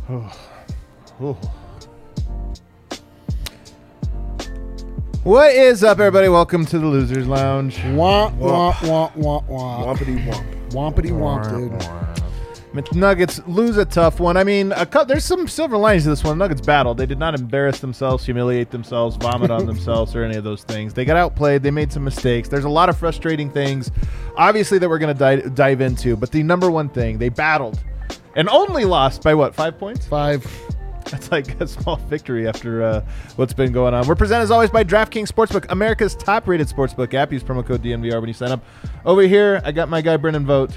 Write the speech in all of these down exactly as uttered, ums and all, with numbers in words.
What is up, everybody? Welcome to the Losers Lounge. Womp, womp, womp, womp, womp. Wompity womp. Wompity womp, dude. Nuggets lose a tough one. I mean, a co- there's some silver linings to this one. Nuggets battled. They did not embarrass themselves, humiliate themselves, vomit on themselves, or any of those things. They got outplayed. They made some mistakes. There's a lot of frustrating things, obviously, that we're going to di- dive into. But the number one thing, they battled and only lost by, what, five points? Five. That's like a small victory after uh, what's been going on. We're presented, as always, by DraftKings Sportsbook, America's top-rated sportsbook app. Use promo code D N V R when you sign up. Over here, I got my guy, Brennan Vogt.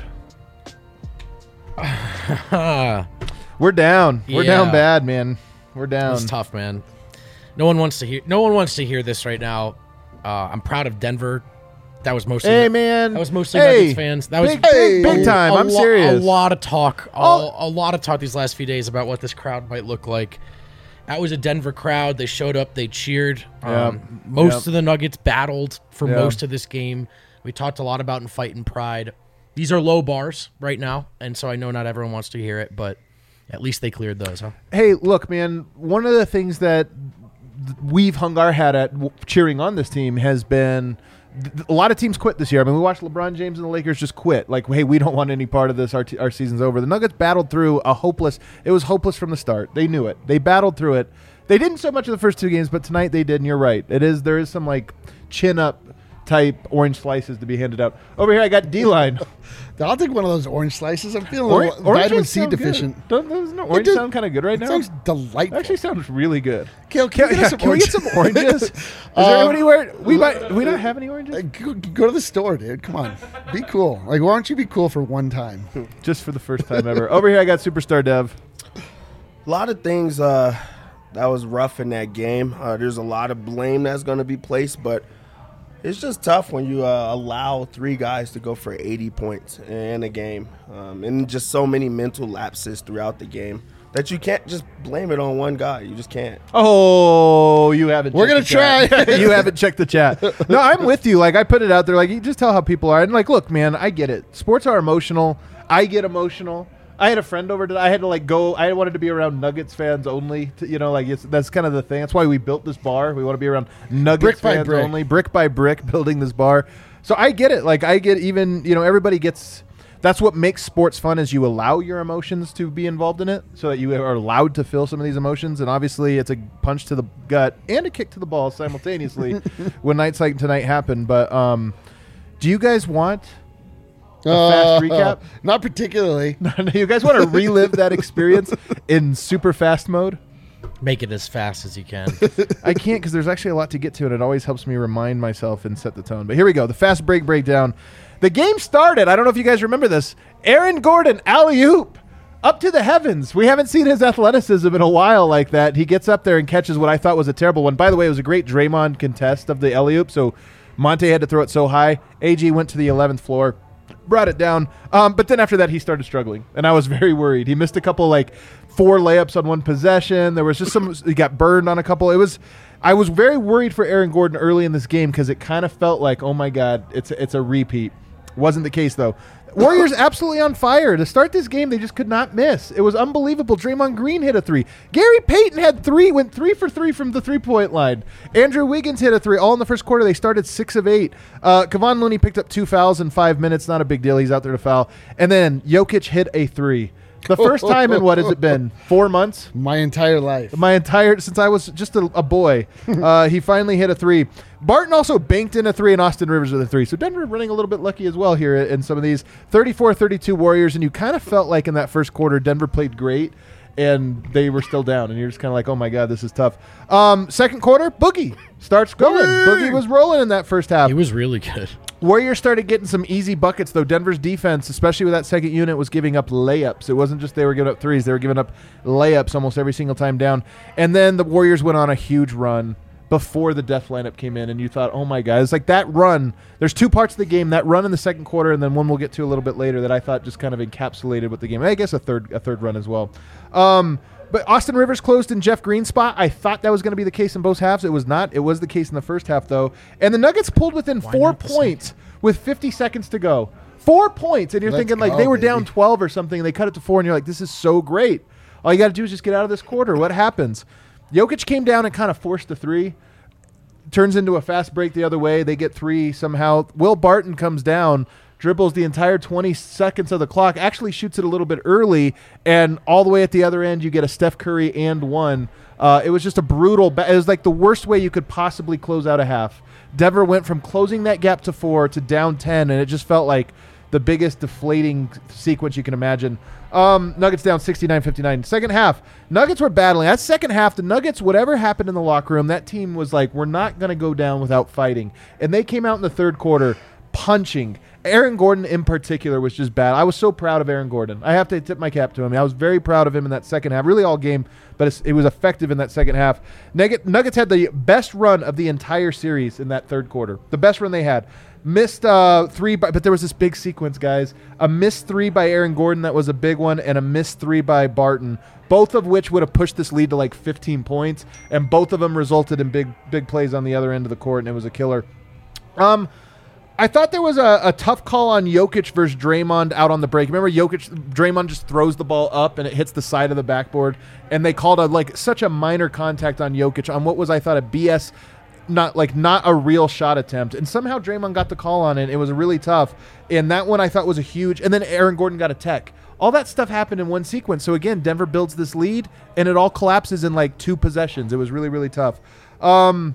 We're down. We're Yeah. down bad, man. We're down. It's tough, man. No one wants to hear. No one wants to hear this right now. Uh, I'm proud of Denver. That was mostly. Hey, man. That was mostly Hey. Nuggets fans. That was Big, big, big time. I'm lo- serious. A lot of talk. A, Oh. a lot of talk these last few days about what this crowd might look like. That was a Denver crowd. They showed up. They cheered. Yeah. Um, most Yep. of the Nuggets battled for Yeah. most of this game. We talked a lot about in fight and pride. These are low bars right now, and so I know not everyone wants to hear it, but at least they cleared those, huh? Hey, look, man. One of the things that th- we've hung our hat at w- cheering on this team has been th- a lot of teams quit this year. I mean, we watched LeBron James and the Lakers just quit. Like, hey, we don't want any part of this. Our, t- our season's over. The Nuggets battled through a hopeless. It was hopeless from the start. They knew it. They battled through it. They didn't so much in the first two games, but tonight they did. And you're right. It is. There is some like chin up type orange slices to be handed out. Over here, I got D-line. I'll take one of those orange slices. I'm feeling Or- a little oranges vitamin C sound deficient. Good. Don't, doesn't the orange does- sound kind of good right It now? sounds delightful. Actually sounds really good. Kale, can, Can, we yeah, get some can we get oranges? some oranges? Is Uh, there anywhere we might we not have any oranges? Uh, Go, go to the store, dude. Come on. Be cool. Like, why don't you be cool for one time? Just for the first time ever. Over here, I got Superstar Dev. A lot of things uh, that was rough in that game. Uh, there's a lot of blame that's going to be placed, but it's just tough when you uh, allow three guys to go for eighty points in a game, um, and just so many mental lapses throughout the game that you can't just blame it on one guy. You just can't. Oh, you haven't. We're checked gonna the chat. try. You haven't checked the chat. No, I'm with you. Like I put it out there. Like you just tell how people are. And like, look, man, I get it. Sports are emotional. I get emotional. I had a friend over today. I had to like go. I wanted to be around Nuggets fans only. To, you know, like it's, that's kind of the thing. That's why we built this bar. We want to be around Nuggets Brick by fans brick. only, brick by brick, building this bar. So I get it. Like I get even. You know, everybody gets. That's what makes sports fun is you allow your emotions to be involved in it so that you are allowed to feel some of these emotions. And obviously it's a punch to the gut and a kick to the balls simultaneously when nights like tonight happen. But um, do you guys want a fast recap? Not particularly. You guys want to relive that experience in super fast mode? Make it as fast as you can. I can't because there's actually a lot to get to, and it always helps me remind myself and set the tone. But here we go. The fast break breakdown. The game started. I don't know if you guys remember this. Aaron Gordon, alley-oop, up to the heavens. We haven't seen his athleticism in a while like that. He gets up there and catches what I thought was a terrible one. By the way, it was a great Draymond contest of the alley-oop, so Monte had to throw it so high. A G went to the eleventh floor, brought it down. Um, but then after that, he started struggling, and I was very worried. He missed a couple, like, four layups on one possession. There was just some – he got burned on a couple. It was – I was very worried for Aaron Gordon early in this game because it kind of felt like, oh, my God, it's it's a repeat. Wasn't the case, though. Warriors absolutely on fire. To start this game, they just could not miss. It was unbelievable. Draymond Green hit a three. Gary Payton had three, went three for three from the three-point line. Andrew Wiggins hit a three. All in the first quarter, they started six of eight. Uh, Kevon Looney picked up two fouls in five minutes. Not a big deal. He's out there to foul. And then Jokic hit a three. The first time in what has it been? Four months? My entire life. My entire since I was just a, a boy, uh, he finally hit a three. Barton also banked in a three, and Austin Rivers with a three. So Denver running a little bit lucky as well here in some of these thirty-four thirty-two Warriors, and you kind of felt like in that first quarter Denver played great, and they were still down, and you're just kind of like, oh my God, this is tough. Um, second quarter, Boogie starts going. Boogie was rolling in that first half. He was really good. Warriors started getting some easy buckets, though. Denver's defense, especially with that second unit, was giving up layups. It wasn't just they were giving up threes. They were giving up layups almost every single time down. And then the Warriors went on a huge run before the death lineup came in, and you thought, oh, my God. It's like that run. There's two parts of the game, that run in the second quarter and then one we'll get to a little bit later that I thought just kind of encapsulated with the game. I guess a third a third run as well. Um, but Austin Rivers closed in Jeff Green's spot. I thought that was going to be the case in both halves. It was not. It was the case in the first half, though. And the Nuggets pulled within Why four not the points second? with fifty seconds to go. Four points. And you're Let's thinking, like, go, they were baby. down twelve or something, and they cut it to four, and you're like, this is so great. All you got to do is just get out of this quarter. What happens? Jokic came down and kind of forced the three. Turns into a fast break the other way. They get three somehow. Will Barton comes down, dribbles the entire twenty seconds of the clock, actually shoots it a little bit early, and all the way at the other end, you get a Steph Curry and one. Uh, it was just a brutal ba- – it was like the worst way you could possibly close out a half. Denver went from closing that gap to four to down ten, and it just felt like the biggest deflating sequence you can imagine. Um, Nuggets down sixty-nine fifty-nine. Second half, Nuggets were battling. That second half, the Nuggets, whatever happened in the locker room, that team was like, we're not going to go down without fighting. And they came out in the third quarter punching. Aaron Gordon in particular was just bad. I was so proud of Aaron Gordon. I have to tip my cap to him. I was very proud of him in that second half, really all game, but it's, it was effective in that second half. Nugget, Nuggets had the best run of the entire series in that third quarter, the best run they had. Missed uh, three, by, but there was this big sequence, guys. A missed three by Aaron Gordon, that was a big one, and a missed three by Barton, both of which would have pushed this lead to like fifteen points, and both of them resulted in big big plays on the other end of the court, and it was a killer. Um, I thought there was a, a tough call on Jokic versus Draymond out on the break. Remember, Jokic, Draymond just throws the ball up, and it hits the side of the backboard, and they called a like such a minor contact on Jokic on what was, I thought, a B S – not like not a real shot attempt, and somehow Draymond got the call on it. It was really tough, and that one I thought was a huge, and then Aaron Gordon got a tech. All that stuff happened in one sequence. So again, Denver builds this lead, and it all collapses in like two possessions. It was really, really tough. Um,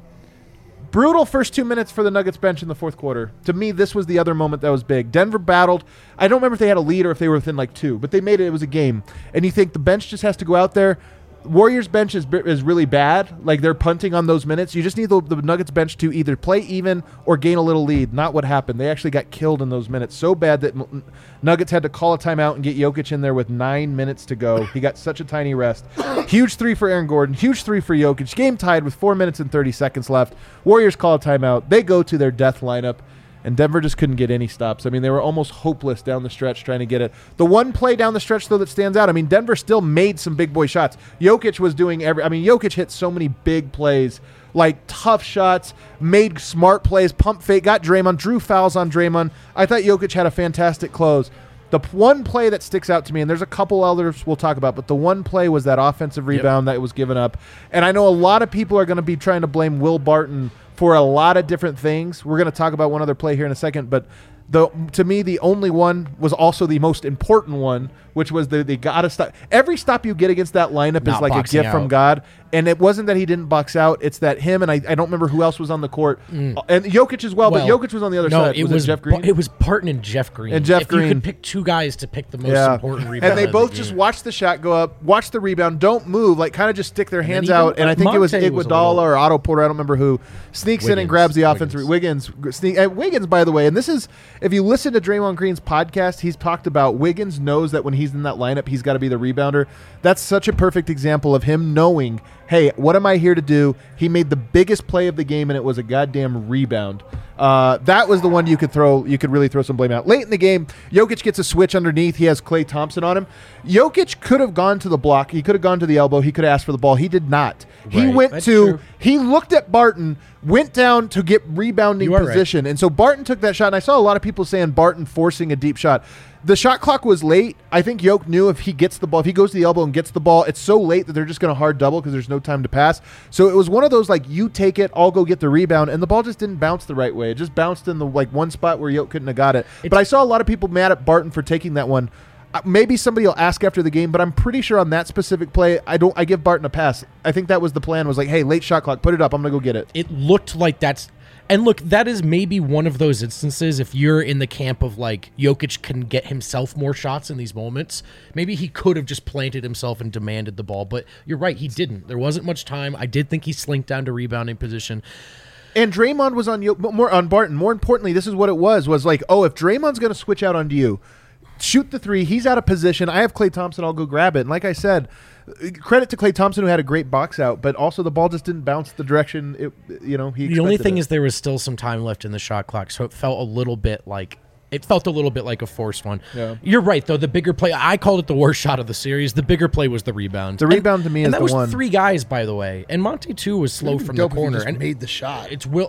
brutal first two minutes for the Nuggets bench in the fourth quarter. To me, this was the other moment that was big. Denver battled. I don't remember if they had a lead or if they were within like two, but they made it. It was a game, and you think the bench just has to go out there. Warriors bench is is really bad. Like, they're punting on those minutes. You just need the, the Nuggets bench to either play even or gain a little lead. Not what happened. They actually got killed in those minutes so bad that M- Nuggets had to call a timeout and get Jokic in there with nine minutes to go. He got such a tiny rest. Huge three for Aaron Gordon. Huge three for Jokic. Game tied with four minutes and thirty seconds left. Warriors call a timeout. They go to their death lineup. And Denver just couldn't get any stops. I mean, they were almost hopeless down the stretch trying to get it. The one play down the stretch, though, that stands out, I mean, Denver still made some big boy shots. Jokic was doing every – I mean, Jokic hit so many big plays, like tough shots, made smart plays, pump fake, got Draymond, drew fouls on Draymond. I thought Jokic had a fantastic close. The one play that sticks out to me, and there's a couple others we'll talk about, but the one play was that offensive rebound yep. that was given up. And I know a lot of people are going to be trying to blame Will Barton for a lot of different things. We're going to talk about one other play here in a second, but the to me, the only one was also the most important one, which was the they got to stop. Every stop you get against that lineup Not is like a gift out. from God. And it wasn't that he didn't box out. It's that him, and I, I don't remember who else was on the court. Mm. And Jokic as well, well, but Jokic was on the other no, side. It was, was it Jeff Green? It was Barton and Jeff Green. And Jeff if Green. you could pick two guys to pick the most yeah. important rebound. And they both the just game. watch the shot go up, watch the rebound, don't move, like kind of just stick their hands even, out. And like, I think it was Monte was a Iguodala little- or Otto Porter, I don't remember who, sneaks in and Wiggins. grabs the offensive. Wiggins. Sneak, and Wiggins, by the way, and this is, if you listen to Draymond Green's podcast, he's talked about Wiggins knows that when he's in that lineup, he's got to be the rebounder. That's such a perfect example of him knowing, hey, what am I here to do? He made the biggest play of the game, and it was a goddamn rebound. Uh, that was the one you could throw. You could really throw some blame out. Late in the game, Jokic gets a switch underneath. He has Klay Thompson on him. Jokic could have gone to the block. He could have gone to the elbow. He could have asked for the ball. He did not. He Right. went That's to. true. He looked at Barton, went down to get rebounding You are position, and so Barton took that shot. And I saw a lot of people saying Barton forcing a deep shot. The shot clock was late. I think Jokic knew if he gets the ball, if he goes to the elbow and gets the ball, it's so late that they're just going to hard double because there's no time to pass. So it was one of those, like, you take it, I'll go get the rebound, and the ball just didn't bounce the right way. It just bounced in the like one spot where Jokic couldn't have got it. It's, but I saw a lot of people mad at Barton for taking that one. Uh, maybe somebody will ask after the game, but I'm pretty sure on that specific play, I don't. I give Barton a pass. I think that was the plan. Was like, hey, late shot clock, put it up. I'm gonna go get it. It looked like that's and look, that is maybe one of those instances if you're in the camp of like Jokic can get himself more shots in these moments, maybe he could have just planted himself and demanded the ball, but you're right, he didn't. There wasn't much time. I did think he slinked down to rebounding position. And Draymond was on you more on Barton. More importantly, this is what it was, was like, oh, if Draymond's going to switch out onto you, shoot the three, he's out of position, I have Klay Thompson, I'll go grab it. And like I said, credit to Klay Thompson who had a great box out, but also the ball just didn't bounce the direction it, you know, he The only thing it. is there was still some time left in the shot clock, so it felt a little bit like It felt a little bit like a forced one. Yeah. You're right, though. The bigger play, I called it the worst shot of the series. The bigger play was the rebound. The rebound to me and is that the was one. three guys, by the way. And Monte too was slow from the Dope if he corner just and made the shot. It's Will.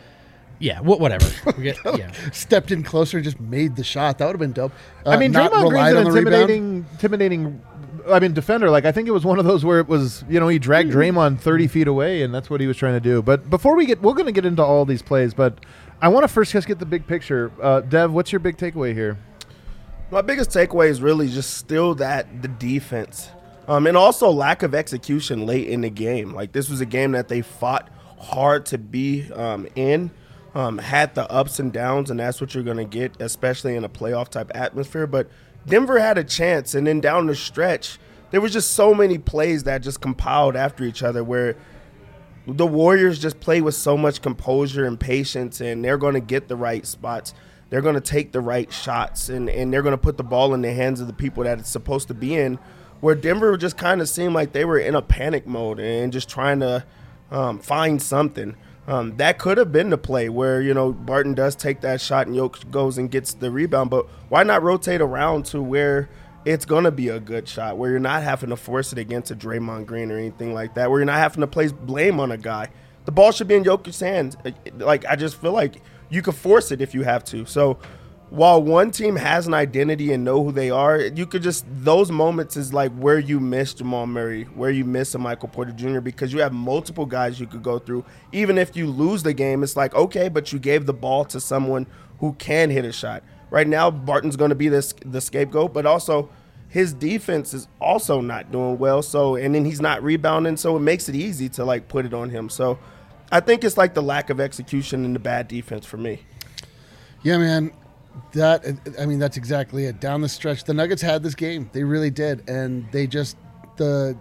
Yeah, wh- whatever. We get, yeah. Stepped in closer, and just made the shot. That would have been dope. Uh, I mean, not Draymond relied Green's on an the rebound. intimidating, intimidating I mean, defender. Like I think it was one of those where it was, you know, he dragged Draymond thirty feet away, and that's what he was trying to do. But before we get, we're going to get into all these plays, but I want to first just get the big picture. Uh, Dev, what's your big takeaway here? My biggest takeaway is really just still that the defense, um, and also lack of execution late in the game. Like this was a game that they fought hard to be um, in. Um, had the ups and downs, and that's what you're going to get, especially in a playoff type atmosphere. But Denver had a chance, and then down the stretch, there was just so many plays that just compiled after each other where the Warriors just play with so much composure and patience, and they're going to get the right spots. They're going to take the right shots, and, and they're going to put the ball in the hands of the people that it's supposed to be in, where Denver just kind of seemed like they were in a panic mode and just trying to um, find something. Um, that could have been the play where, you know, Barton does take that shot and Jokic goes and gets the rebound. But why not rotate around to where it's going to be a good shot, where you're not having to force it against a Draymond Green or anything like that, where you're not having to place blame on a guy. The ball should be in Jokic's hands. Like, I just feel like you could force it if you have to. So while one team has an identity and know who they are, you could just – those moments is like where you miss Jamal Murray, where you miss a Michael Porter Junior, because you have multiple guys you could go through. Even if you lose the game, it's like, okay, but you gave the ball to someone who can hit a shot. Right now, Barton's going to be this, the scapegoat, but also his defense is also not doing well. So, and then he's not rebounding, so it makes it easy to, like, put it on him. So I think it's like the lack of execution and the bad defense for me. Yeah, man. That I mean, that's exactly it. Down the stretch, the Nuggets had this game. They really did, and they just the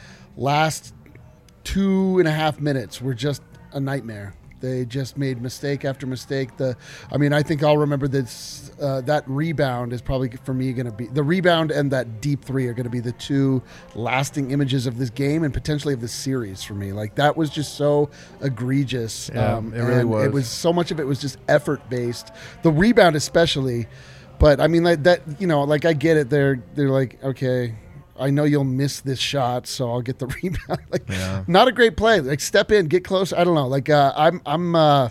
last two and a half minutes were just a nightmare. They just made mistake after mistake. The, I mean, I think I'll remember this. Uh, that rebound is probably for me going to be the rebound, and that deep three are going to be the two lasting images of this game and potentially of this series for me. Like that was just so egregious. Yeah, um, it really and was. It was so much of it was just effort based. The rebound especially, but I mean like that. You know, like I get it. They're they're like okay. I know you'll miss this shot, so I'll get the rebound. Like, yeah. Not a great play. Like, step in, get close. I don't know. Like, uh, I'm, I'm. Uh,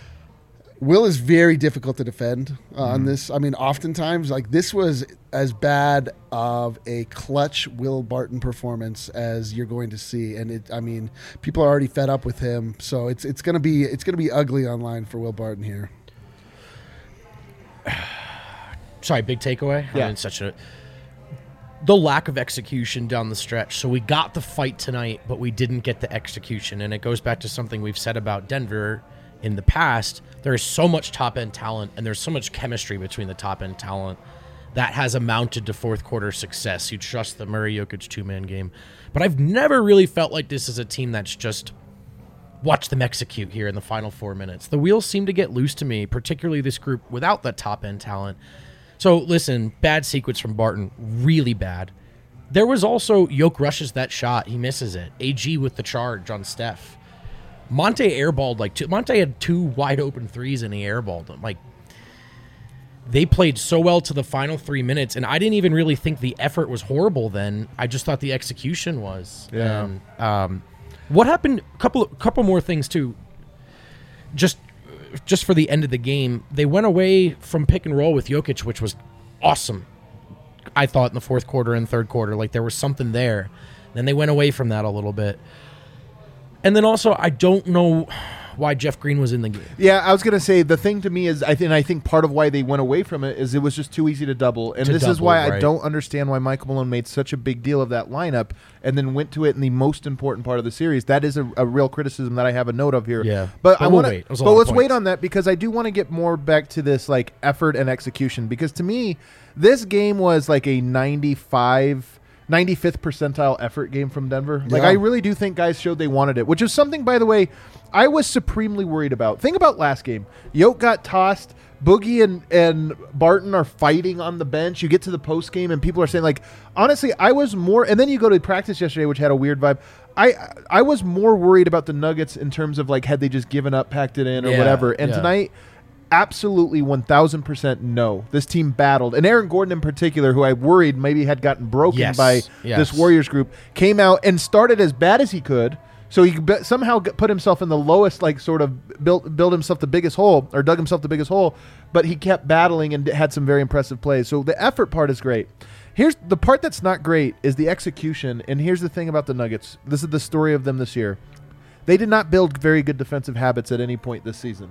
Will is very difficult to defend uh, mm. on this. I mean, oftentimes, like this was as bad of a clutch Will Barton performance as you're going to see, and it. I mean, people are already fed up with him, so it's it's gonna be it's gonna be ugly online for Will Barton here. Sorry, big takeaway. Yeah, I mean, such a. The lack of execution down the stretch. So we got the fight tonight, but we didn't get the execution. And it goes back to something we've said about Denver in the past. There is so much top-end talent, and there's so much chemistry between the top-end talent that has amounted to fourth-quarter success. You trust the Murray-Jokic two-man game. But I've never really felt like this is a team that's just watch them execute here in the final four minutes. The wheels seem to get loose to me, particularly this group without that top-end talent. So, listen, bad sequence from Barton, really bad. There was also, Yoke rushes that shot, he misses it. A G with the charge on Steph. Monte airballed like two. Monte had two wide open threes and he airballed them. Like, they played so well to the final three minutes, and I didn't even really think the effort was horrible then. I just thought the execution was. Yeah. And, um, what happened, a couple, couple more things, too. Just... Just for the end of the game, they went away from pick and roll with Jokic, which was awesome. I thought in the fourth quarter and third quarter, like there was something there. Then they went away from that a little bit. And then also, I don't know why Jeff Green was in the game. Yeah, I was going to say, the thing to me is, I think I think part of why they went away from it is it was just too easy to double. And To this is double, why I right. don't understand why Michael Malone made such a big deal of that lineup and then went to it in the most important part of the series. That is a, a real criticism that I have a note of here. Yeah. But, But I we'll want wait. It was a But lot of let's wait points. on that, because I do want to get more back to this like effort and execution, because to me, this game was like a ninety-five ninety-fifth percentile effort game from Denver. Like, Yeah. I really do think guys showed they wanted it, which is something, by the way, I was supremely worried about. Think about last game. Yoke got tossed. Boogie and, and Barton are fighting on the bench. You get to the post game and people are saying, like, honestly, I was more, and then you go to practice yesterday, which had a weird vibe. I I was more worried about the Nuggets in terms of, like, had they just given up, packed it in, or Yeah, whatever. And yeah. tonight, absolutely one thousand percent no. This team battled. And Aaron Gordon in particular, who I worried maybe had gotten broken Yes, by yes. this Warriors group, came out and started as bad as he could. So he be- somehow got- put himself in the lowest, like, sort of built built himself the biggest hole, or dug himself the biggest hole, but he kept battling and had some very impressive plays. So the effort part is great. Here's the part that's not great is the execution. And here's the thing about the Nuggets. This is the story of them this year. They did not build very good defensive habits at any point this season.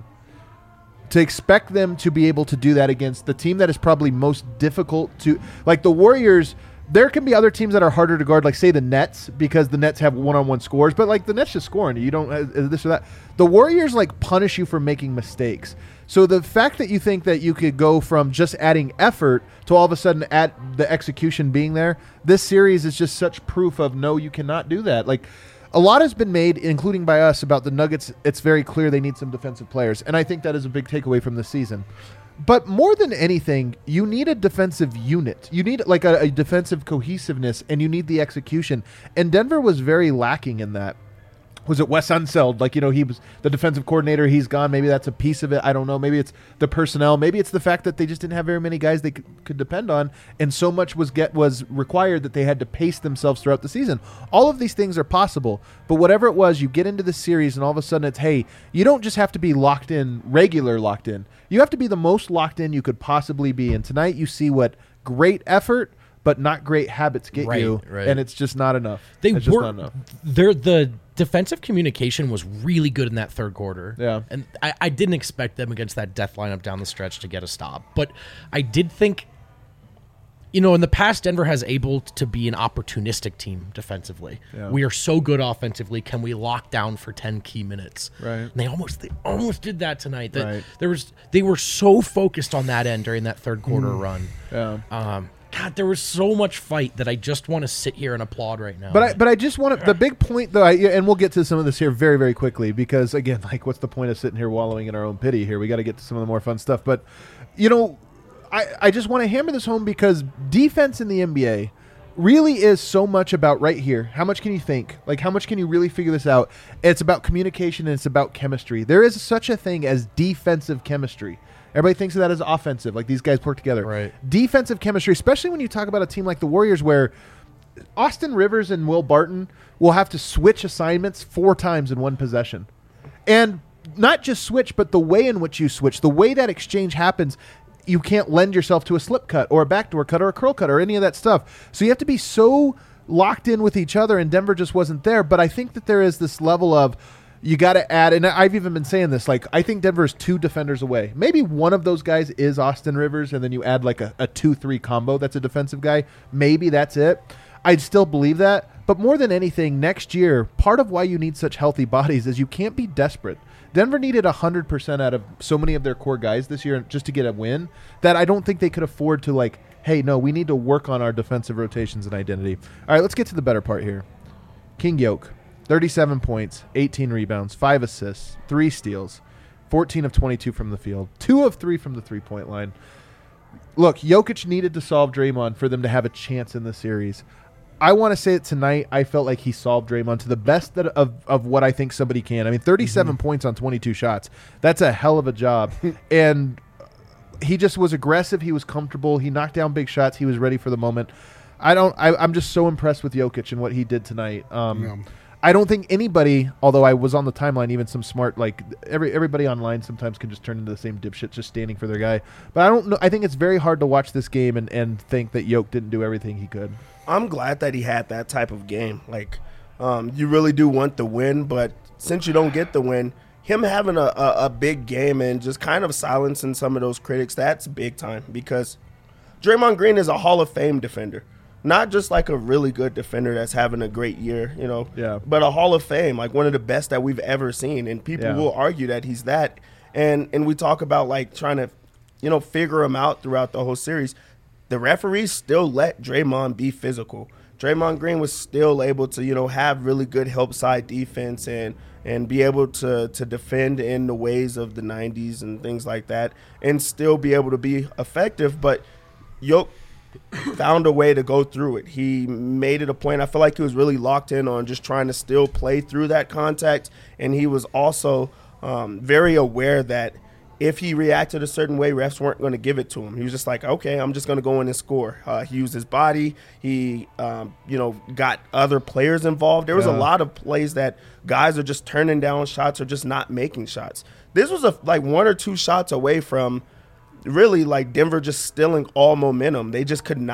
To expect them to be able to do that against the team that is probably most difficult to, like the Warriors, there can be other teams that are harder to guard, like say the Nets, because the Nets have one-on-one scores, but like the Nets just scoring. You don't uh, this or that. The Warriors like punish you for making mistakes. So the fact that you think that you could go from just adding effort to all of a sudden at the execution being there, this series is just such proof of no, you cannot do that. Like a lot has been made, including by us, about the Nuggets. It's very clear they need some defensive players, and I think that is a big takeaway from this season. But more than anything, you need a defensive unit. You need like a, a defensive cohesiveness, and you need the execution. And Denver was very lacking in that. Was it Wes Unseld? Like, you know, he was the defensive coordinator. He's gone. Maybe that's a piece of it. I don't know. Maybe it's the personnel. Maybe it's the fact that they just didn't have very many guys they could, could depend on, and so much was get was required that they had to pace themselves throughout the season. All of these things are possible, but whatever it was, you get into the series, and all of a sudden it's, hey, you don't just have to be locked in, regular locked in. You have to be the most locked in you could possibly be. And tonight you see what great effort but not great habits get Right, you, right. and it's just not enough. They it's just were not enough. They're, the defensive communication was really good in that third quarter. Yeah. And I, I didn't expect them against that death lineup down the stretch to get a stop. But I did think, you know, in the past, Denver has able to be an opportunistic team defensively. Yeah. We are so good offensively. Can we lock down for ten key minutes? Right. And they almost they almost did that tonight. That Right. there was they were so focused on that end during that third quarter run. Yeah. Um, God, there was so much fight that I just want to sit here and applaud right now. But I, but I just want to, the big point though, I, and we'll get to some of this here very, very quickly, because again, like, what's the point of sitting here wallowing in our own pity here? We got to get to some of the more fun stuff. But, you know, I, I just want to hammer this home, because defense in the N B A really is so much about right here. How much can you think? Like, how much can you really figure this out? It's about communication, and it's about chemistry. There is such a thing as defensive chemistry. Everybody thinks of that as offensive, like these guys work together. Right. Defensive chemistry, especially when you talk about a team like the Warriors, where Austin Rivers and Will Barton will have to switch assignments four times in one possession. And not just switch, but the way in which you switch, the way that exchange happens, you can't lend yourself to a slip cut or a backdoor cut or a curl cut or any of that stuff. So you have to be so locked in with each other, and Denver just wasn't there. But I think that there is this level of, you got to add, and I've even been saying this, like, I think Denver is two defenders away. Maybe one of those guys is Austin Rivers, and then you add like a, a two three combo that's a defensive guy. Maybe that's it. I'd still believe that. But more than anything, next year, part of why you need such healthy bodies is you can't be desperate. Denver needed one hundred percent out of so many of their core guys this year just to get a win that I don't think they could afford to, like, hey, no, we need to work on our defensive rotations and identity. All right, let's get to the better part here. King Yoke. thirty-seven points, eighteen rebounds, five assists, three steals, fourteen of twenty-two from the field, two of three from the three-point line. Look, Jokic needed to solve Draymond for them to have a chance in the series. I want to say that tonight I felt like he solved Draymond to the best that of, of what I think somebody can. I mean, thirty-seven mm-hmm. points on twenty-two shots. That's a hell of a job. And he just was aggressive. He was comfortable. He knocked down big shots. He was ready for the moment. I don't. I, I'm just so impressed with Jokic and what he did tonight. Um, Yeah. I don't think anybody, although I was on the timeline, even some smart, like every everybody online sometimes can just turn into the same dipshit just standing for their guy. But I don't know. I think it's very hard to watch this game and, and think that Yoke didn't do everything he could. I'm glad that he had that type of game. Like, um, you really do want the win, but since you don't get the win, him having a, a, a big game and just kind of silencing some of those critics, that's big time, because Draymond Green is a Hall of Fame defender. Not just like a really good defender that's having a great year, you know, yeah. but a Hall of Fame, like one of the best that we've ever seen. And people yeah. will argue that he's that. And and we talk about like trying to, you know, figure him out throughout the whole series. The referees still let Draymond be physical. Draymond Green was still able to, you know, have really good help side defense and and be able to to defend in the ways of the nineties and things like that, and still be able to be effective. But Yoke found a way to go through it. He made it a point. I feel like he was really locked in on just trying to still play through that contact, and he was also um, very aware that if he reacted a certain way, refs weren't going to give it to him. He was just like, okay, I'm just going to go in and score. Uh, he used his body. He, um, you know, got other players involved. There was Yeah. a lot of plays that guys are just turning down shots or just not making shots. This was a like one or two shots away from really like Denver just stealing all momentum. They just could not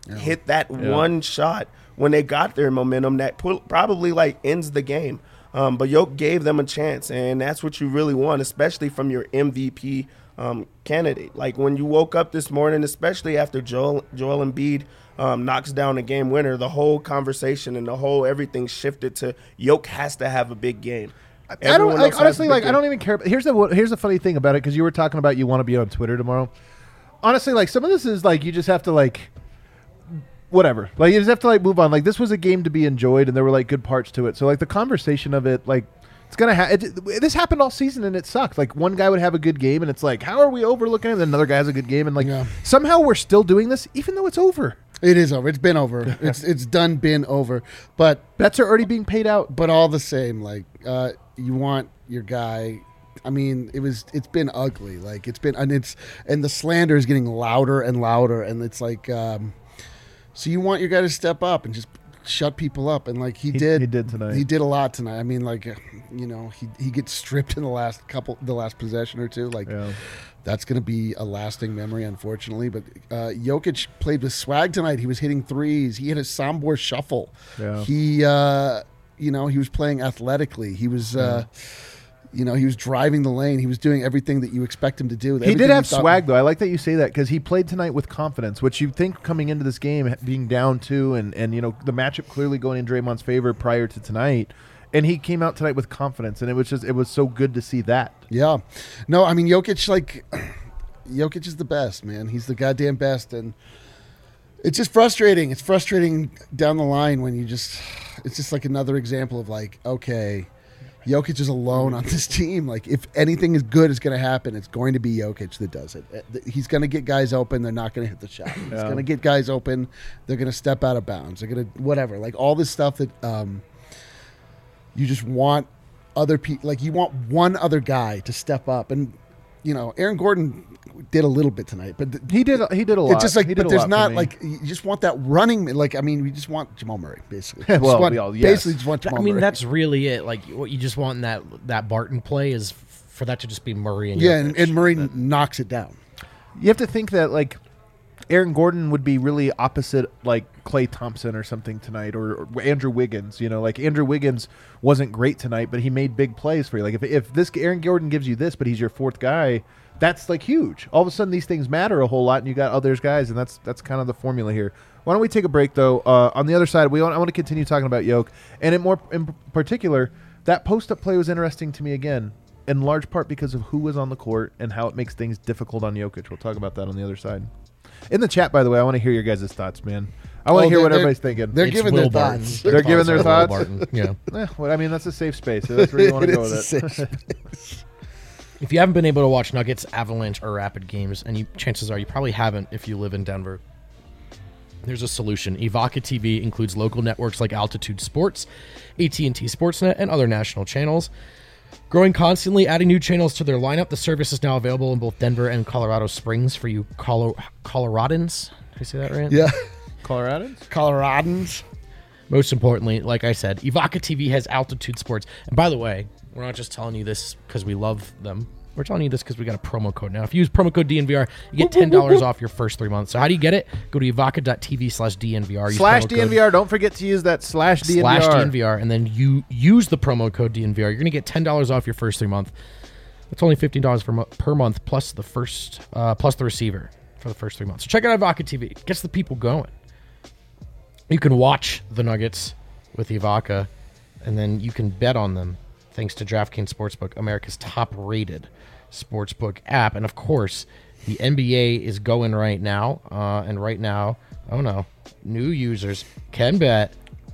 hit that one shot when they got their momentum that pu- probably like ends the game. Um, but Yoke gave them a chance, and that's what you really want, especially from your M V P um, candidate. Like when you woke up this morning, especially after Joel Joel Embiid um, knocks down the game winner, the whole conversation and the whole everything shifted to Yoke has to have a big game. I Everyone don't like, else has honestly a big like I game. don't even care. Here's the here's the funny thing about it, because you were talking about you want to be on Twitter tomorrow. Honestly, like some of this is like you just have to like whatever. Like you just have to like move on. Like this was a game to be enjoyed, and there were like good parts to it. So like the conversation of it, like it's gonna ha- it, this happened all season, and it sucked. Like one guy would have a good game, and it's like, how are we overlooking him? And another guy has a good game, and like Yeah. somehow we're still doing this, even though it's over. It is over. It's been over. it's it's done. Been over. But Bets are already being paid out. but all the same, like uh, you want your guy. I mean, it was. It's been ugly. Like it's been, and it's and the slander is getting louder and louder, and it's like, um, so you want your guy to step up and just shut people up, and like he, He- did. he did tonight. He did a lot tonight. I mean, like, uh, you know, he he gets stripped in the last couple, the last possession or two. Like, Yeah. that's going to be a lasting memory, unfortunately. But uh, Jokic played with swag tonight. He was hitting threes. He had a Sombor shuffle. Yeah. He, uh, you know, he was playing athletically. He was, uh, you know, he was driving the lane. He was doing everything that you expect him to do. He Everything did you have thought- swag, though. I like that you say that, because he played tonight with confidence, which you think coming into this game, being down two, and, and you know, the matchup clearly going in Draymond's favor prior to tonight. And he came out tonight with confidence, and it was just, it was so good to see that. Yeah. No, I mean, Jokic, like, Jokic is the best, man. He's the goddamn best. And it's just frustrating. It's frustrating down the line when you just, it's just like another example of like, okay, Jokic is alone on this team. Like, if anything is good is going to happen, it's going to be Jokic that does it. Uh, He's going to get guys open. They're not going to hit the shot. He's Yeah. going to get guys open. They're going to step out of bounds. They're going to, whatever. Like, all this stuff that um, you just want other people, like, you want one other guy to step up. And, you know, Aaron Gordon did a little bit tonight, but th- He did he did a lot. it's just like, He did but a there's lot for not me. like, you just want that running. Like, I mean, we just want Jamal Murray, basically. We just Well, want- we all- yes. basically just want I Jamal mean, Murray. that's really it. Like what you just want in that that Barton play is f- for that to just be Murray and yeah, and, Jokic. and Murray knocks it down. You have to think that like Aaron Gordon would be really opposite like Klay Thompson or something tonight, or, or Andrew Wiggins. You know, like Andrew Wiggins wasn't great tonight, but he made big plays for you. Like if if this Aaron Gordon gives you this, but he's your fourth guy, that's like huge. All of a sudden, these things matter a whole lot, and you got others guys, and that's that's kind of the formula here. Why don't we take a break though? Uh, on the other side, we want, I want to continue talking about Yoke, and in more in particular, that post up play was interesting to me again, in large part because of who was on the court and how it makes things difficult on Jokic. We'll talk about that on the other side. In the chat, by the way, I want to hear your guys' thoughts, man. I want to Oh, hear they're- what they're- everybody's thinking. They're It's giving Will their Barton. thoughts. They're giving their Will thoughts? Barton. Yeah. Eh, well, I mean, that's a safe space. So that's where you want to It go is with a it. safe If you haven't been able to watch Nuggets, Avalanche, or Rapid games, and you, chances are you probably haven't if you live in Denver, there's a solution. Evoca T V includes local networks like Altitude Sports, A T and T Sportsnet, and other national channels. Growing constantly, adding new channels to their lineup, the service is now available in both Denver and Colorado Springs for you Colo- Coloradans. Did I say that right? Yeah. Coloradans? Coloradans. Most importantly, like I said, Evoca T V has Altitude Sports. And by the way, we're not just telling you this because we love them. We're telling you this because we got a promo code now. If you use promo code D N V R, you get ten dollars off your first three months. So how do you get it? Go to evoca.tv slash DNVR. Use Slash promo D N V code R. Don't forget to use that slash D N V R. Slash D N V R. And then you use the promo code D N V R. You're going to get ten dollars off your first three months. That's only fifteen dollars per, mo- per month plus the first uh, plus the receiver for the first three months. So check out Evoca T V. It gets the people going. You can watch the Nuggets with Evoca, and then you can bet on them thanks to DraftKings Sportsbook, America's top-rated sportsbook app. And, of course, the N B A is going right now. Uh, and right now, oh, no, new users can bet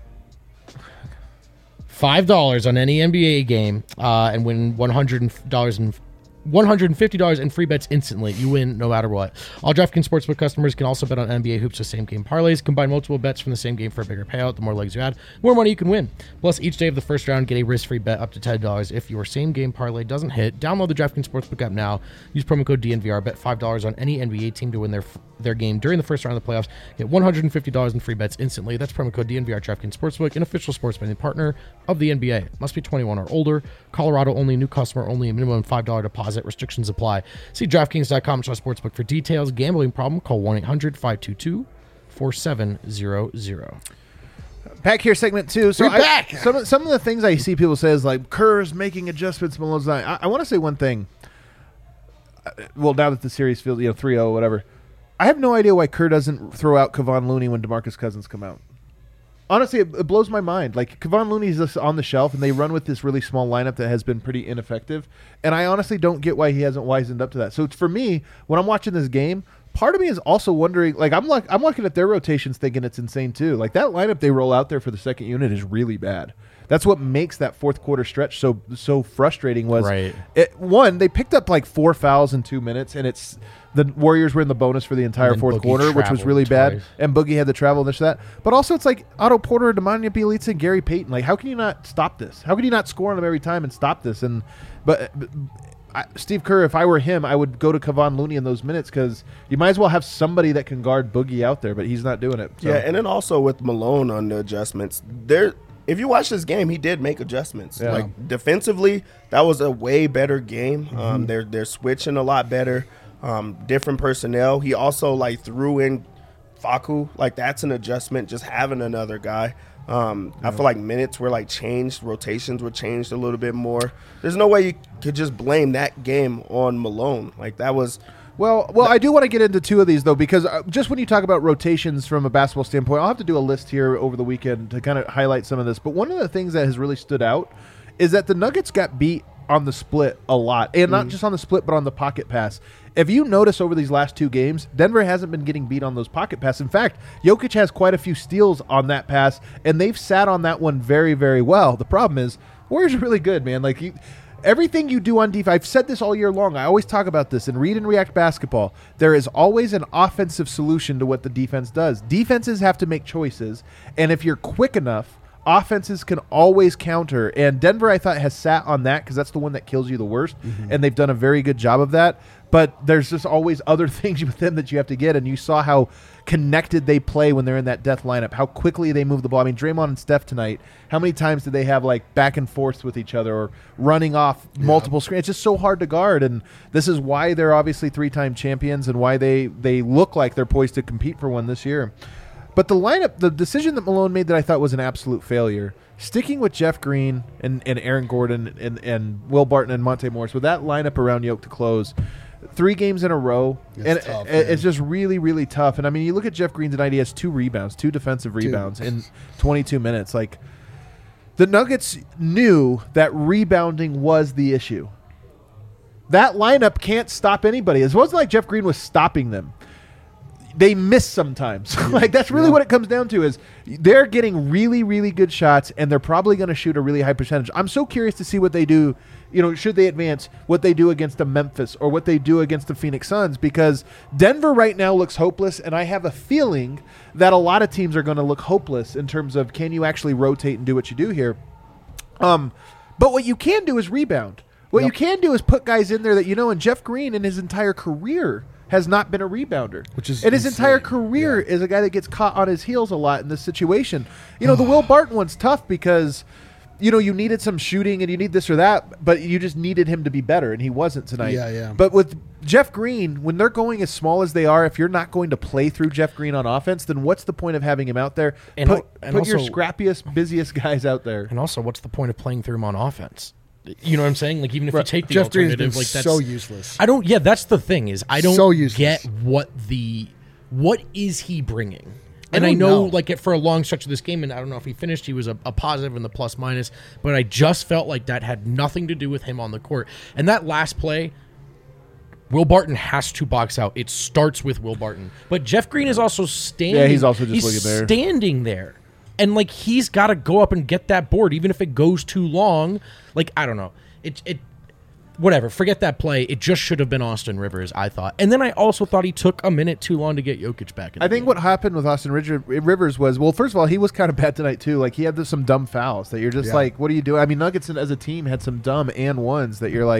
five dollars on any N B A game uh, and win one hundred dollars in one hundred fifty dollars in free bets instantly. You win no matter what. All DraftKings Sportsbook customers can also bet on N B A hoops with same game parlays. Combine multiple bets from the same game for a bigger payout. The more legs you add, the more money you can win. Plus, each day of the first round, get a risk-free bet up to ten dollars if your same game parlay doesn't hit. Download the DraftKings Sportsbook app now. Use promo code D N V R. Bet five dollars on any N B A team to win their their game during the first round of the playoffs. Get one hundred fifty dollars in free bets instantly. That's promo code D N V R. DraftKings Sportsbook, an official sports betting partner of the N B A. Must be twenty-one or older. Colorado only. New customer only. A minimum five dollars deposit. Restrictions apply. See DraftKings dot com slash sportsbook for details. Gambling problem? Call one eight hundred five two two four seven zero zero. Back here, segment two. So We're I, back. Some of, some of the things I see people say is like Kerr's making adjustments. Malone's not. I, I want to say one thing. Uh, Well, now that the series feels you know three oh whatever, I have no idea why Kerr doesn't throw out Kevon Looney when DeMarcus Cousins come out. Honestly, it, it blows my mind. Like Kevon Looney's just on the shelf, and they run with this really small lineup that has been pretty ineffective. And I honestly don't get why he hasn't wisened up to that. So it's, for me, when I'm watching this game, part of me is also wondering. Like I'm like I'm looking at their rotations, thinking it's insane too. Like that lineup they roll out there for the second unit is really bad. That's what makes that fourth quarter stretch so so frustrating. Was Right. it, one they picked up like four fouls in two minutes, and it's the Warriors were in the bonus for the entire then fourth Boogie quarter, which was traveled really bad. twice. And Boogie had to travel this that. But also it's like Otto Porter, Nemanja Bjelica, and Gary Payton. Like how can you not stop this? How can you not score on them every time and stop this? And but. but I, Steve Kerr, if I were him, I would go to Kevon Looney in those minutes because you might as well have somebody that can guard Boogie out there, but he's not doing it. So. Yeah, and then also with Malone on the adjustments, there. If you watch this game, he did make adjustments. Yeah. Like defensively, that was a way better game. Mm-hmm. Um, they're they're switching a lot better. Um, different personnel. He also like threw in Facu. Like that's an adjustment. Just having another guy. Um, I feel like minutes were like changed, rotations were changed a little bit more. There's no way you could just blame that game on Malone. Like that was. Well, well, I do want to get into two of these though, because uh, just when you talk about rotations from a basketball standpoint, I'll have to do a list here over the weekend to kind of highlight some of this. But one of the things that has really stood out is that the Nuggets got beat on the split a lot, and not just on the split, but on the pocket pass. If you notice over these last two games, Denver hasn't been getting beat on those pocket passes. In fact, Jokic has quite a few steals on that pass, and they've sat on that one very, very well. The problem is, Warriors are really good, man. Like you, everything you do on defense, I've said this all year long. I always talk about this in Read and React basketball. There is always an offensive solution to what the defense does. Defenses have to make choices, and if you're quick enough, offenses can always counter. And Denver, I thought, has sat on that because that's the one that kills you the worst, Mm-hmm. and they've done a very good job of that. But there's just always other things with them that you have to get, and you saw how connected they play when they're in that death lineup, how quickly they move the ball. I mean, Draymond and Steph tonight, how many times did they have like back and forth with each other or running off multiple screens? It's just so hard to guard, and this is why they're obviously three-time champions and why they, they look like they're poised to compete for one this year. But the lineup, the decision that Malone made that I thought was an absolute failure, sticking with Jeff Green and, and Aaron Gordon and, and Will Barton and Monte Morris, with that lineup around Yoke to close, three games in a row, It's and tough, it- it's man. just really, really tough. And I mean, you look at Jeff Green tonight; he has two rebounds, two defensive rebounds in twenty-two minutes. Like the Nuggets knew that rebounding was the issue. That lineup can't stop anybody. It wasn't like Jeff Green was stopping them. They miss sometimes. Like that's really Yeah. what it comes down to is they're getting really, really good shots, and they're probably going to shoot a really high percentage. I'm so curious to see what they do. You know, should they advance, what they do against the Memphis or what they do against the Phoenix Suns, because Denver right now looks hopeless, and I have a feeling that a lot of teams are going to look hopeless in terms of can you actually rotate and do what you do here. Um, but what you can do is rebound. What Yep. you can do is put guys in there that you know, and Jeff Green in his entire career has not been a rebounder. Which is and his entire insane. career Yeah. is a guy that gets caught on his heels a lot in this situation. You know, the Will Barton one's tough because, you know, you needed some shooting and you need this or that, but you just needed him to be better, and he wasn't tonight. Yeah, yeah. But with Jeff Green, when they're going as small as they are, if you're not going to play through Jeff Green on offense, then what's the point of having him out there? And put al- and put your also- scrappiest, busiest guys out there. And also, what's the point of playing through him on offense? You know what I'm saying? Like, even if Right. you take the Jeff Green has alternative, been like that's so useless. I don't. Yeah, that's the thing is I don't So useless. get what the what is he bringing. I And I, don't know, know. like, it, for a long stretch of this game, and I don't know if he finished, he was a, a positive in the plus minus, but I just felt like that had nothing to do with him on the court. And that last play, Will Barton has to box out. It starts with Will Barton. But Jeff Green is also standing. Yeah, he's also just he's looking there. standing there. And, like, he's got to go up and get that board, even if it goes too long. Like, I don't know. It, it, whatever. Forget that play. It just should have been Austin Rivers, I thought. And then I also thought he took a minute too long to get Jokic back in the I think game. what happened with Austin Ridge- Rivers was, well, first of all, he was kind of bad tonight too. Like he had this, some dumb fouls that you're just Yeah. like, what are you doing? I mean, Nuggets as a team had some dumb and ones that you're like,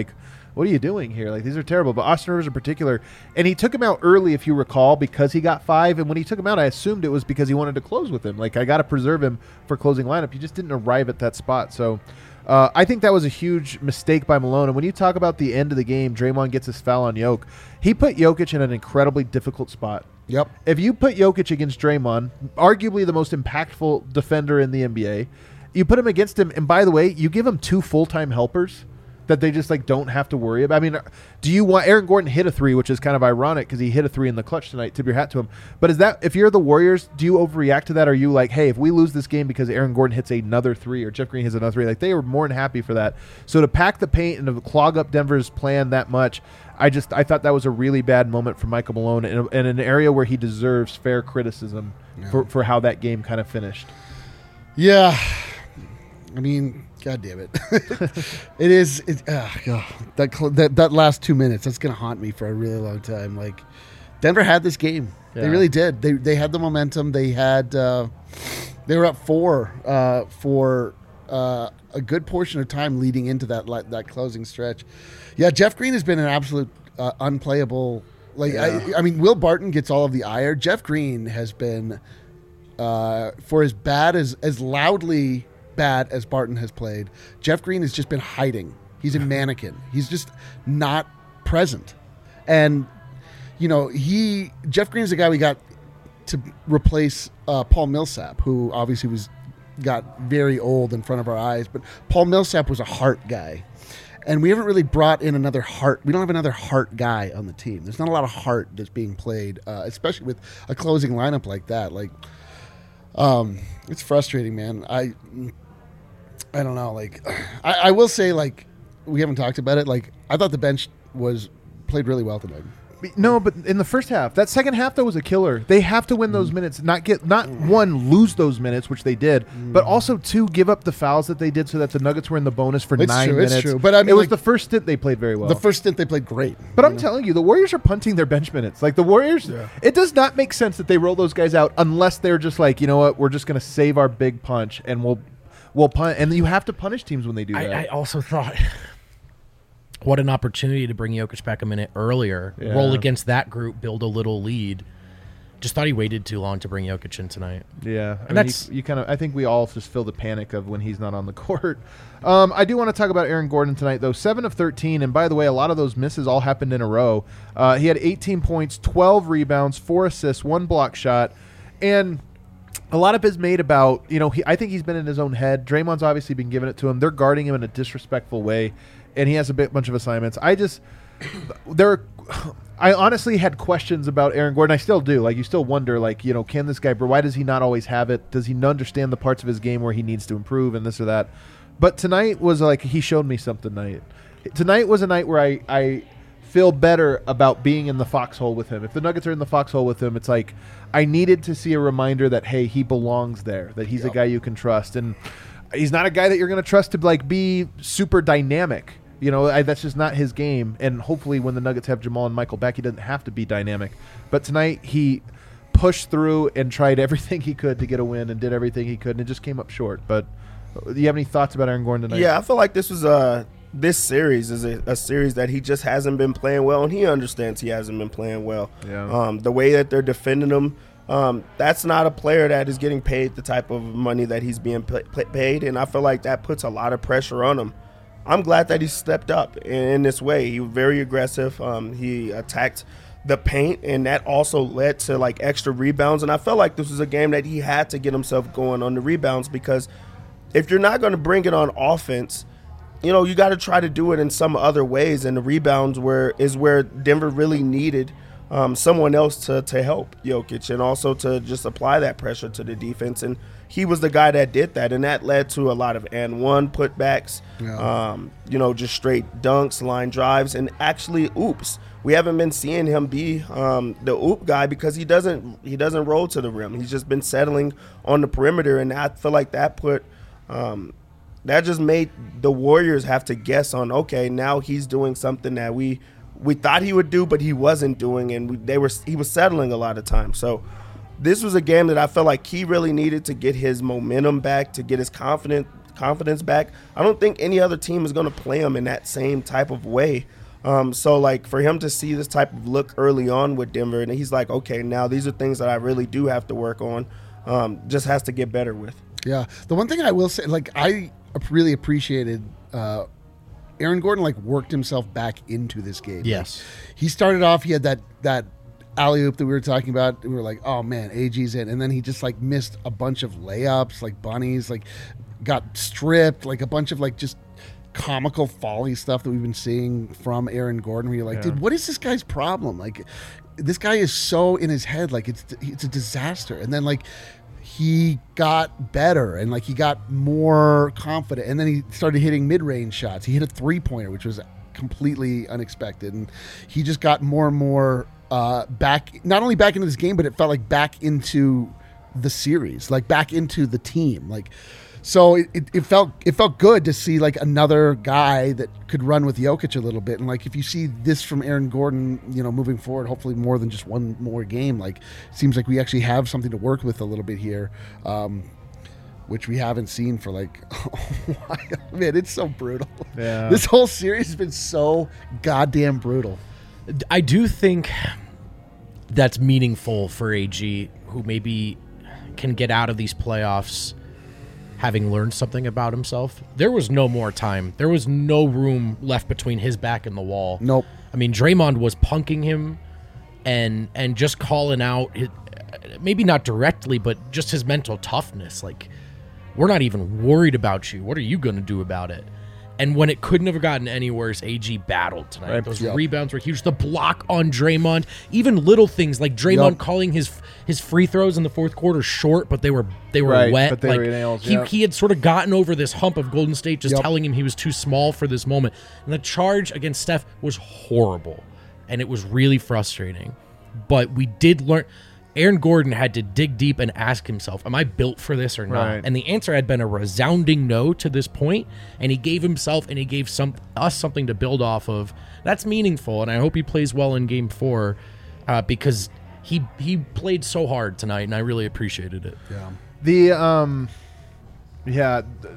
what are you doing here? Like, these are terrible. But Austin Rivers in particular, and he took him out early, if you recall, because he got five. And when he took him out, I assumed it was because he wanted to close with him. Like, I got to preserve him for closing lineup. He just didn't arrive at that spot. So uh, I think that was a huge mistake by Malone. And when you talk about the end of the game, Draymond gets his foul on Jokic. He put Jokic in an incredibly difficult spot. Yep. If you put Jokic against Draymond, arguably the most impactful defender in the N B A, you put him against him, and by the way, you give him two full-time helpers that they just like don't have to worry about. I mean, do you want Aaron Gordon hit a three, which is kind of ironic because he hit a three in the clutch tonight. Tip your hat to him. But is that, if you're the Warriors, do you overreact to that? Are you like, hey, if we lose this game because Aaron Gordon hits another three or Jeff Green hits another three, like they were more than happy for that. So to pack the paint and to clog up Denver's plan that much, I just I thought that was a really bad moment for Michael Malone in, a, in an area where he deserves fair criticism Yeah. for, for how that game kind of finished. Yeah. I mean, God damn it. It is. It, uh, God, that, cl- that that last two minutes, that's going to haunt me for a really long time. Like, Denver had this game. Yeah. They really did. They they had the momentum. They had. Uh, they were up four uh, for uh, a good portion of time leading into that li- that closing stretch. Yeah, Jeff Green has been an absolute uh, unplayable. Like, Yeah. I, I mean, Will Barton gets all of the ire. Jeff Green has been, uh, for as bad as as loudly bad as Barton has played, Jeff Green has just been hiding. He's a mannequin. He's just not present. And, you know, he Jeff Green is the guy we got to replace uh, Paul Millsap, who obviously was got very old in front of our eyes. But Paul Millsap was a heart guy. And we haven't really brought in another heart. We don't have another heart guy on the team. There's not a lot of heart that's being played, uh, especially with a closing lineup like that. Like, um, it's frustrating, man. I, I don't know. Like, I, I will say, like, we haven't talked about it. Like, I thought the bench was played really well tonight. No, but in the first half, that second half though was a killer. They have to win those minutes, not get not one lose those minutes, which they did, but also two give up the fouls that they did, so that the Nuggets were in the bonus for It's nine true, it's minutes. true. But I mean, it was like- the first stint they played very well. The first stint they played great. But I'm telling you, the Warriors are punting their bench minutes. Like the Warriors, it does not make sense that they roll those guys out unless they're just like, you know what, we're just going to save our big punch and we'll we'll punt. And you have to punish teams when they do that. I, I also thought, what an opportunity to bring Jokic back a minute earlier, Yeah. roll against that group, build a little lead. Just thought he waited too long to bring Jokic in tonight. Yeah, I And mean, that's- you, you kind of. I think we all just feel the panic of when he's not on the court. Um, I do want to talk about Aaron Gordon tonight, though. Seven of thirteen, and by the way, a lot of those misses all happened in a row. Uh, he had eighteen points, twelve rebounds, four assists, one block shot, and a lot of it is made about. You know, he, I think he's been in his own head. Draymond's obviously been giving it to him. They're guarding him in a disrespectful way, and he has a bit, bunch of assignments. I just there. I honestly had questions about Aaron Gordon. I still do. Like, you still wonder, like, you know, can this guy, why does he not always have it? Does he not understand the parts of his game where he needs to improve and this or that? But tonight was like, he showed me something tonight. Tonight was a night where I, I feel better about being in the foxhole with him. If the Nuggets are in the foxhole with him, it's like, I needed to see a reminder that, hey, he belongs there, that he's Yep. a guy you can trust. And he's not a guy that you're going to trust to, like, be super dynamic. You know, I, that's just not his game. And hopefully when the Nuggets have Jamal and Michael back, he doesn't have to be dynamic. But tonight he pushed through and tried everything he could to get a win and did everything he could, and it just came up short. But do you have any thoughts about Aaron Gordon tonight? Yeah, I feel like this was a this series is a, a series that he just hasn't been playing well, and he understands he hasn't been playing well. Yeah. Um, the way that they're defending him, um, that's not a player that is getting paid the type of money that he's being pay, paid, and I feel like that puts a lot of pressure on him. I'm glad that he stepped up in, in this way. He was very aggressive. Um, he attacked the paint, and that also led to like extra rebounds. And I felt like this was a game that he had to get himself going on the rebounds, because if you're not going to bring it on offense, you know, you got to try to do it in some other ways. And the rebounds were is where Denver really needed um, someone else to to help Jokic, and also to just apply that pressure to the defense. And he was the guy that did that, and that led to a lot of and one putbacks, Yeah. um, you know, just straight dunks, line drives, and actually oops. We haven't been seeing him be um, the oop guy, because he doesn't he doesn't roll to the rim. He's just been settling on the perimeter, and I feel like that put um, that just made the Warriors have to guess on, okay, now he's doing something that we we thought he would do, but he wasn't doing, and we, they were he was settling a lot of times. So this was a game that I felt like he really needed to get his momentum back, to get his confidence confidence back. I don't think any other team is going to play him in that same type of way. Um, so, like, for him to see this type of look early on with Denver, and he's like, okay, now these are things that I really do have to work on, um, just has to get better with. Yeah. The one thing I will say, like, I really appreciated uh, Aaron Gordon, like, worked himself back into this game. Yes. Like, he started off, he had that, that alley-oop that we were talking about. We were like, oh, man, A G's in. And then he just, like, missed a bunch of layups, like bunnies, like, got stripped, like, a bunch of, like, just comical folly stuff that we've been seeing from Aaron Gordon, where you're like, Yeah. dude, what is this guy's problem? Like, this guy is so in his head, like, it's it's a disaster. And then, like, he got better and, like, he got more confident. And then he started hitting mid-range shots. He hit a three-pointer, which was completely unexpected. And he just got more and more uh, back, not only back into this game, but it felt like back into the series, like back into the team. Like, so it, it, it felt it felt good to see, like, another guy that could run with Jokic a little bit. And, like, if you see this from Aaron Gordon, you know, moving forward, hopefully more than just one more game, like, it seems like we actually have something to work with a little bit here, um, which we haven't seen for, like, a while. Man, it's so brutal. Yeah. This whole series has been so goddamn brutal. I do think that's meaningful for A G, who maybe can get out of these playoffs having learned something about himself. There was no more time. There was no room left between his back and the wall. Nope. I mean, Draymond was punking him and and just calling out, his, maybe not directly, but just his mental toughness. Like, we're not even worried about you. What are you going to do about it? And when it couldn't have gotten any worse, A G battled tonight. Right. Those Yep. rebounds were huge. The block on Draymond, even little things like Draymond Yep. calling his his free throws in the fourth quarter short, but they were they were Right, wet. but they like, were nails, he yeah. he had sort of gotten over this hump of Golden State just Yep. telling him he was too small for this moment. And the charge against Steph was horrible, and it was really frustrating. But we did learn. Aaron Gordon had to dig deep and ask himself, am I built for this or not? Right. And the answer had been a resounding no to this point, and he gave himself and he gave some us something to build off of. That's meaningful, and I hope he plays well in game four uh, because he he played so hard tonight, and I really appreciated it. Yeah. The um, yeah, th-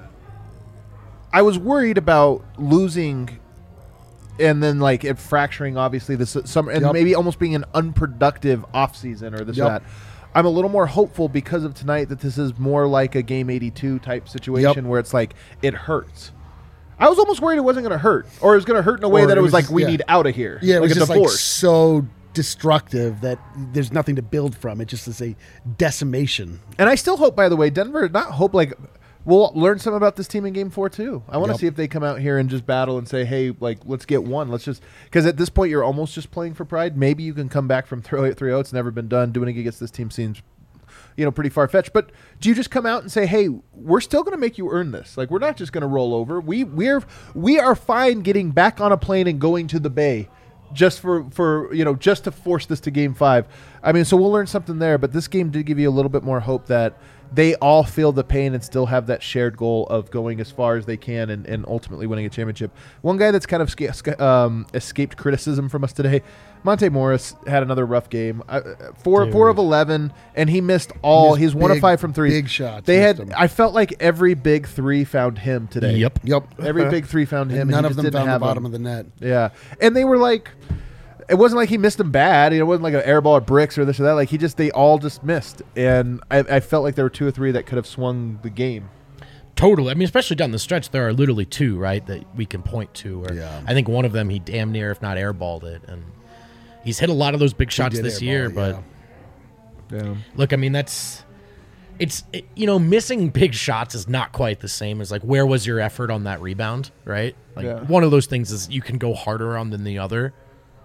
I was worried about losing, and then like it fracturing. Obviously, this summer, and Yep. maybe almost being an unproductive off season or this Yep. or that. I'm a little more hopeful because of tonight that this is more like a game eighty-two type situation Yep. where it's like it hurts. I was almost worried it wasn't going to hurt, or it was going to hurt in a way Or that it it was, was like just- we yeah. need out of here. Yeah, it like was a just like divorce. so destructive that there's nothing to build from. It just is a decimation. And I still hope, by the way, Denver, not hope, like, we'll learn some about this team in game four, too. I want to Yep. see if they come out here and just battle and say, hey, like, let's get one. Let's just, because at this point, you're almost just playing for pride. Maybe you can come back from three oh. It's never been done. Doing it against this team seems, you know, pretty far-fetched. But do you just come out and say, hey, we're still going to make you earn this? Like, we're not just going to roll over. We, we're, we are fine getting back on a plane and going to the Bay. Just for, for, you know, just to force this to game five. I mean, so we'll learn something there, but this game did give you a little bit more hope that they all feel the pain and still have that shared goal of going as far as they can and, and ultimately winning a championship. One guy that's kind of sca- sca- um, escaped criticism from us today, Monte Morris, had another rough game. Uh, four, four of eleven, and he missed all. He He's missed one of big- five from three. big shots, They missed had. them. I felt like every big three found him today. Yep. Yep. Every big three found him. And and none he of just them didn't found the have bottom him. of the net. Yeah, and they were like, it wasn't like he missed them bad. It wasn't like an air ball at bricks or this or that. Like he just, they all just missed, and I, I felt like there were two or three that could have swung the game. Totally. I mean, especially down the stretch, there are literally two, right, that we can point to. Where Yeah. I think one of them, he damn near, if not airballed it. And he's hit a lot of those big shots did this airball year. it, But yeah. Yeah. look, I mean, that's, it's, it, you know, missing big shots is not quite the same as like, where was your effort on that rebound, right? Like Yeah. one of those things is you can go harder on than the other.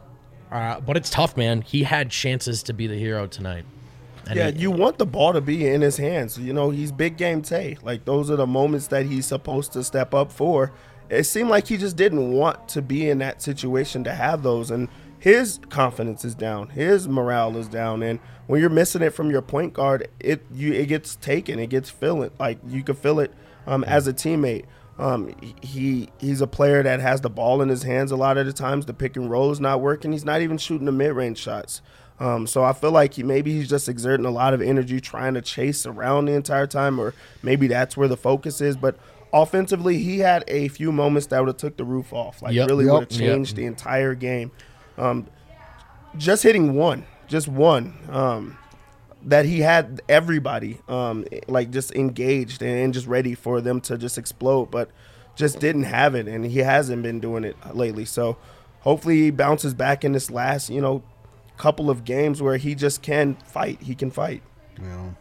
Uh, but it's tough, man. He had chances to be the hero tonight. And Yeah, he- you want the ball to be in his hands. You know, he's big game Tay. Like, those are the moments that he's supposed to step up for. It seemed like he just didn't want to be in that situation to have those. And his confidence is down. His morale is down. And when you're missing it from your point guard, it you it gets taken. It gets feeling. Like, you can feel it um, as a teammate. Um, he he's a player that has the ball in his hands a lot of the times. The pick and roll is not working. He's not even shooting the mid-range shots. Um, so I feel like he maybe he's just exerting a lot of energy trying to chase around the entire time, or maybe that's where the focus is. But offensively, he had a few moments that would have took the roof off. Like, Yep. really Yep. would have changed Yep. the entire game. Um, just hitting one, just one, um, that he had everybody, um, like, just engaged and just ready for them to just explode, but just didn't have it, and he hasn't been doing it lately. So hopefully he bounces back in this last, you know, couple of games where he just can fight. He can fight. Yeah.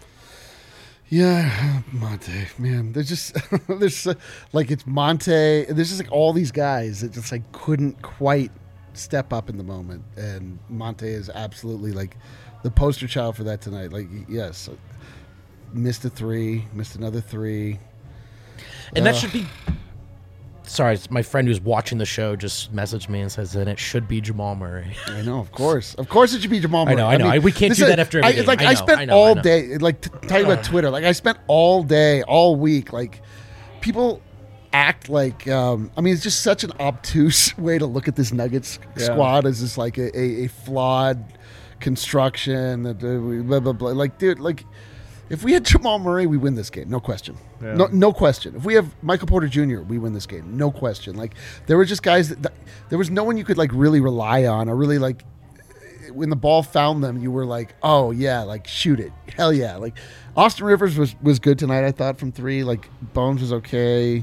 Yeah, Monte, man. There's just there's uh, like it's Monte. There's just like all these guys that just like couldn't quite step up in the moment, and Monte is absolutely like the poster child for that tonight. Like, yes, missed a three, missed another three, And that Ugh. should be. Sorry, it's my friend who's watching the show just messaged me and says that it should be Jamal Murray. I know, of course, of course, it should be Jamal I Murray. know, I know. I- we can't this do is- that after every I, game. Like I I, know, spent I know, I all know. day, like t- talking about Twitter. Like I spent all day, all week. Like people act like. Um, I mean, it's just such an obtuse way to look at this Nuggets Yeah. squad as just like a, a, a flawed construction. That uh, we- blah blah blah. Like, dude, like. If we had Jamal Murray, we win this game, no question. Yeah. No, no question. If we have Michael Porter Junior, we win this game, no question. Like there were just guys that, that there was no one you could like really rely on, or really like when the ball found them, you were like, oh yeah, like shoot it, hell yeah. Like Austin Rivers was was good tonight, I thought, from three. Like Bones was okay.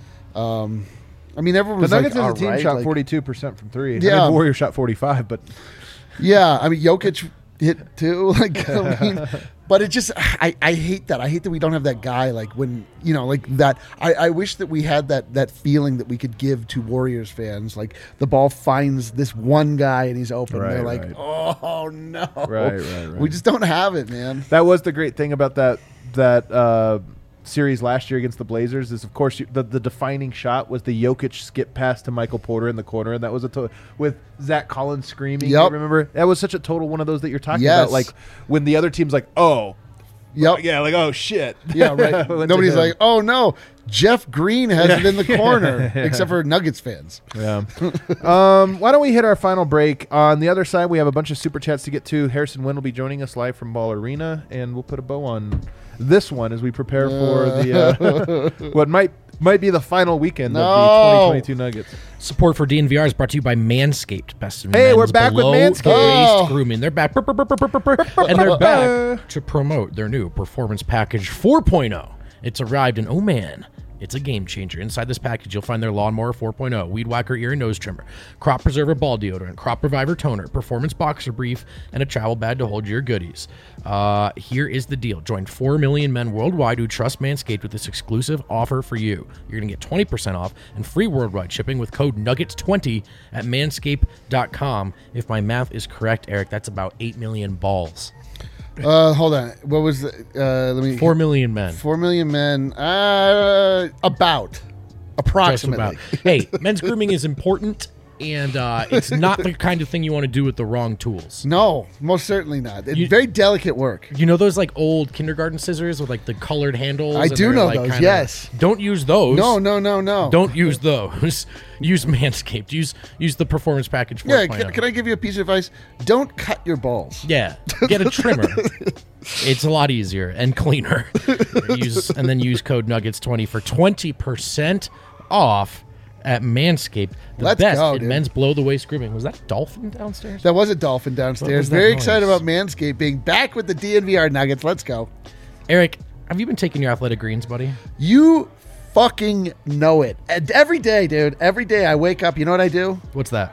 Um, I mean, everyone The was Nuggets like, as a team all right, shot like- forty-two percent from three. I Yeah. mean, the Warriors shot forty-five, but Yeah, I mean Jokic hit too. Like I mean, but it just I, I hate that. I hate that we don't have that guy like when you know like that. I, I wish that we had that that feeling that we could give to Warriors fans. Like the ball finds this one guy and he's open. Right, They're like, right. oh no, Right, right, right. We just don't have it, man. that was the great thing about that that uh, series last year against the Blazers is, of course, you, the, the defining shot was the Jokic skip pass to Michael Porter in the corner, and that was a to- with Zach Collins screaming. Yep. You remember? That was such a total one of those that you're talking Yes. about. Like when the other team's like, oh, Yep. yeah, like oh shit, Yeah, right. Went to Nobody's him. like, oh no, Jeff Green has it in the corner, except for Nuggets fans. Yeah. um, why don't we hit our final break? On the other side, we have a bunch of super chats to get to. Harrison Wynn will be joining us live from Ball Arena, and we'll put a bow on this one as we prepare for the uh, what might might be the final weekend No. of the twenty twenty-two Nuggets. Support for D N V R is brought to you by Manscaped. Best in Hey, men's we're back with below Manscaped. the Oh. waist grooming. They're back. Brr, brr, brr, brr, brr, brr, brr. And they're back to promote their new Performance Package four point oh. It's arrived, and oh man, it's a game changer. Inside this package, you'll find their Lawnmower four point oh, Weed Whacker ear and nose trimmer, Crop Preserver ball deodorant, Crop Reviver toner, Performance boxer brief, and a travel bag to hold your goodies. Uh, here is the deal. Join four million men worldwide who trust Manscaped with this exclusive offer for you. You're going to get twenty percent off and free worldwide shipping with code nuggets twenty at manscaped dot com. If my math is correct, Eric, that's about eight million balls. Uh, hold on. What was the? Uh, let me. four million men. Four million men. Uh, about, Just approximately. about. Hey, men's grooming is important, and uh, it's not the kind of thing you want to do with the wrong tools. No, most certainly not. It's You- very delicate work. You know those like old kindergarten scissors with like the colored handles? I and do they're, know like, those, kinda- yes. Don't use those. No, no, no, no. Don't use those. Use Manscaped. Use use the Performance Package four Yeah, point oh. can, can I give you a piece of advice? Don't cut your balls. Yeah, get a trimmer. It's a lot easier and cleaner. use and then use code nuggets twenty for twenty percent off at Manscaped. The Let's best go, in dude. men's below the waist grooming. Was that a dolphin downstairs? That was a dolphin What downstairs. was that Very noise? excited about Manscaped being back with the D N V R Nuggets. Let's go. Eric, have you been taking your athletic greens, buddy? You fucking know it. And every day, dude. Every day I wake up. You know what I do? What's that?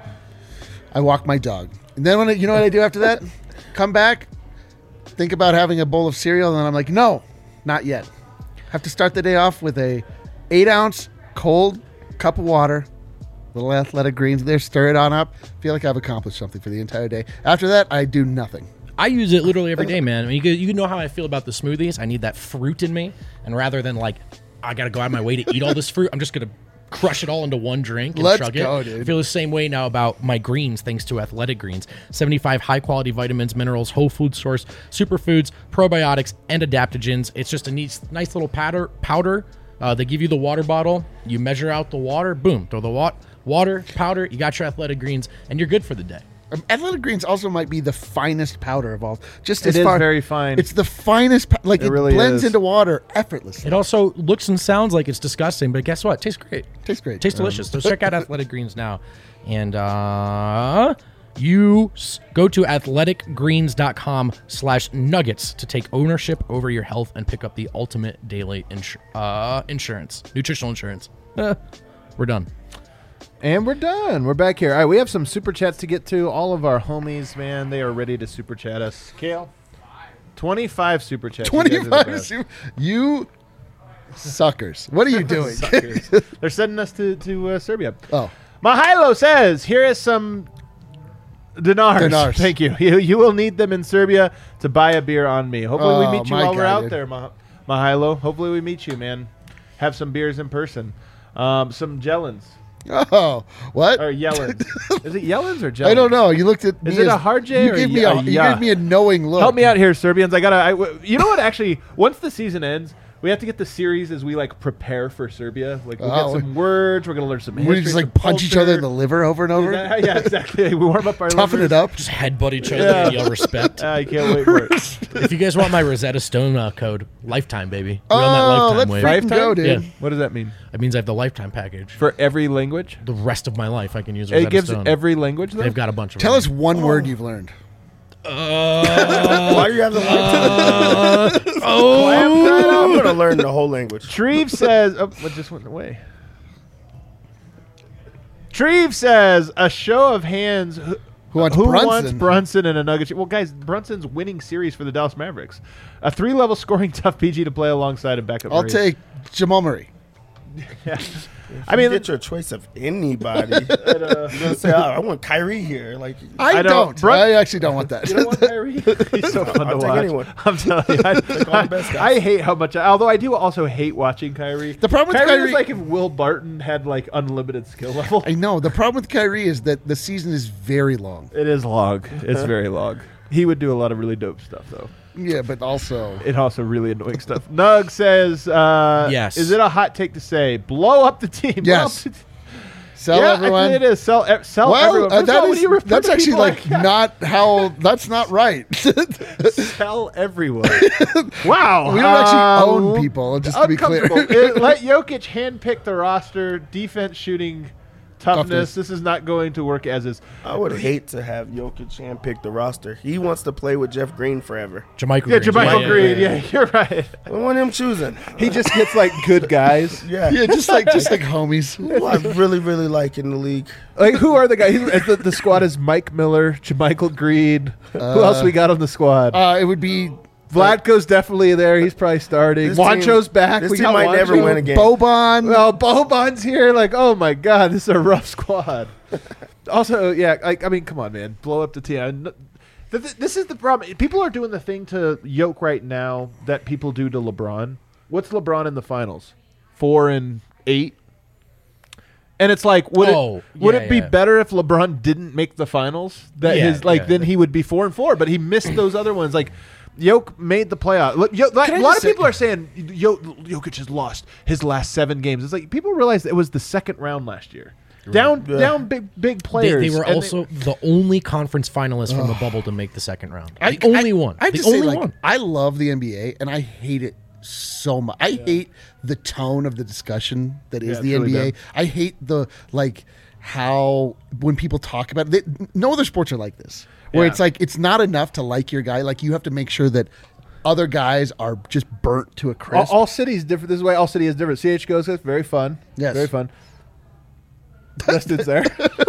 I walk my dog. And then when I, you know what I do after that? Come back, think about having a bowl of cereal, and then I'm like, no, not yet. Have to start the day off with a eight ounce cold cup of water, little athletic greens there, stir it on up. Feel like I've accomplished something for the entire day. After that, I do nothing. I use it literally every day, man. I mean, you, you know how I feel about the smoothies. I need that fruit in me, and rather than like, I got to go out of my way to eat all this fruit, I'm just gonna crush it all into one drink and Let's chug go, it. dude. I feel the same way now about my greens, thanks to Athletic Greens. seventy-five high-quality vitamins, minerals, whole food source, superfoods, probiotics, and adaptogens. It's just a neat, nice little powder. Powder. Uh, they give you the water bottle. You measure out the water. Boom. Throw the wa- water, powder. You got your Athletic Greens, and you're good for the day. Um, Athletic Greens also might be the finest powder of all. Just It as is far, very fine. It's the finest. po- Like It it, really blends is. into water effortlessly. It also looks and sounds like it's disgusting, but guess what? Tastes great. Tastes great. Tastes delicious. So check out Athletic Greens now. And uh, you s- go to athleticgreens.com slash nuggets to take ownership over your health and pick up the ultimate daily insur- uh, insurance, nutritional insurance. Uh, we're done. And we're done. We're back here. All right, we have some super chats to get to. All of our homies, man, they are ready to super chat us. Kale, twenty-five super chats. You guys are the Twenty-five. best. su- You suckers. What are you doing? Suckers. They're sending us to to uh, Serbia. Oh, Mahilo says, here is some dinars. Dinars. Thank you. you. You will need them in Serbia to buy a beer on me. Hopefully we Oh, meet you my while we're God, out dude. there, Mah- Mahilo. Hopefully we meet you, man. Have some beers in person. Um, some Jellins. oh, what? Or Yellins. Is it Yellins or Jellins? I don't know. You looked at me. Is it as- a hard J You or gave a me y- a, a you ya? gave me a knowing look. Help me out here, Serbians. I gotta. I, w- you know what? Actually, once the season ends, we have to get the series as we like prepare for Serbia. Like we Oh, get some words. We're gonna learn some. We history, just some like punch each other in the culture. liver over and Is over. that- yeah, exactly. We warm up our Toughen livers. it up. Just headbutt each other Yeah. and yell respect. I can't wait for it. If you guys want my Rosetta Stone uh, code, lifetime, baby. We're on that Oh, lifetime let's wave. freaking go, dude. Yeah. What does that mean? It means I have the lifetime package. For every language? The rest of my life, I can use Rosetta It gives Stone. every language. Though? They've got a bunch of Tell them. us one word you've learned. Why do you have the lifetime? Oh, I'm gonna learn the whole language. Treve says. Oh, what just went away? Treve says a show of hands. Who, Who wants who Brunson? wants Brunson in a Nugget? Well, guys, Brunson's winning series for the Dallas Mavericks. A three-level scoring tough P G to play alongside and backup. I'll Murray. take Jamal Murray. Yeah. I I mean, get your choice of anybody. You're gonna say, oh, I want Kyrie here. Like, I, I don't- don't. Brun- I actually don't want that. You don't want Kyrie? He's so fun I'll to take watch. anyone. I'm telling you, I, all the best guys. I hate how much. Although I do also hate watching Kyrie. The problem with Kyrie, Kyrie- is like if Will Barton had like unlimited skill level. I know. The problem with Kyrie is that the season is very long. It is long. It's very long. He would do a lot of really dope stuff though. Yeah, but also It also really annoying stuff. Nug says, uh, Yes. Is it a hot take to say blow up the team? Blow Yes. up the t- sell yeah, everyone. I think it is. Sell, e- sell Well, everyone. uh, First of all, that when is you refer that's to actually people like not how. That's not right. we sell everyone. Wow. don't actually Um, own people. Just to be clear. uncomfortable. It- let Jokic handpick the roster, defense, shooting, toughness. Toughness. This is not going to work as is. I would hate to have Jokic handpick the roster. He wants to play with Jeff Green forever. Jermichael Yeah, Green. Jermichael Yeah, Green. yeah, Yeah, you're right. I want him choosing. He just gets like good guys. Yeah. yeah, just like just like homies. Who I really, really like in the league. Like, who are the guys? He's- The, the squad is Mike Miller, Jermichael Green. who else we got on the squad? Uh, it would be Vlatko's definitely there. He's probably starting. This team- Wancho's back. this we team got might never Wancho. win again. Boban. Well, Boban's here. Like, oh my god, this is a rough squad. Also, yeah, like I mean, come on, man, blow up the team. I kn- th- th- This is the problem. People are doing the thing to Yoke right now that people do to LeBron. What's LeBron in the finals? Four and eight. And it's like, would Oh, it would yeah, it be yeah. better if LeBron didn't make the finals? That Yeah, his like yeah. then he would be four and four, but he missed those other ones. Like Yoke made the playoff. Look, Yo, like, Can I a lot just of say- people are saying Yo, Jokic has lost his last seven games. It's like people realize it was the second round last year. Down, Yeah. down, big, big They, players. they were and also the only conference finalist from the bubble to make the second round. I- the only I- one. I the just only say, like, one. I love the N B A, and I hate it so much. I hate the tone of the discussion that is Yeah, it's the really N B A. dumb. I hate the like how when people talk about it, they, no other sports are like this. Where Yeah. it's like it's not enough to like your guy. Like you have to make sure that other guys are just burnt to a all, crisp. all cities different. This is why all city is different. C H goes. It's very fun. Yes. very fun. Dustin's there.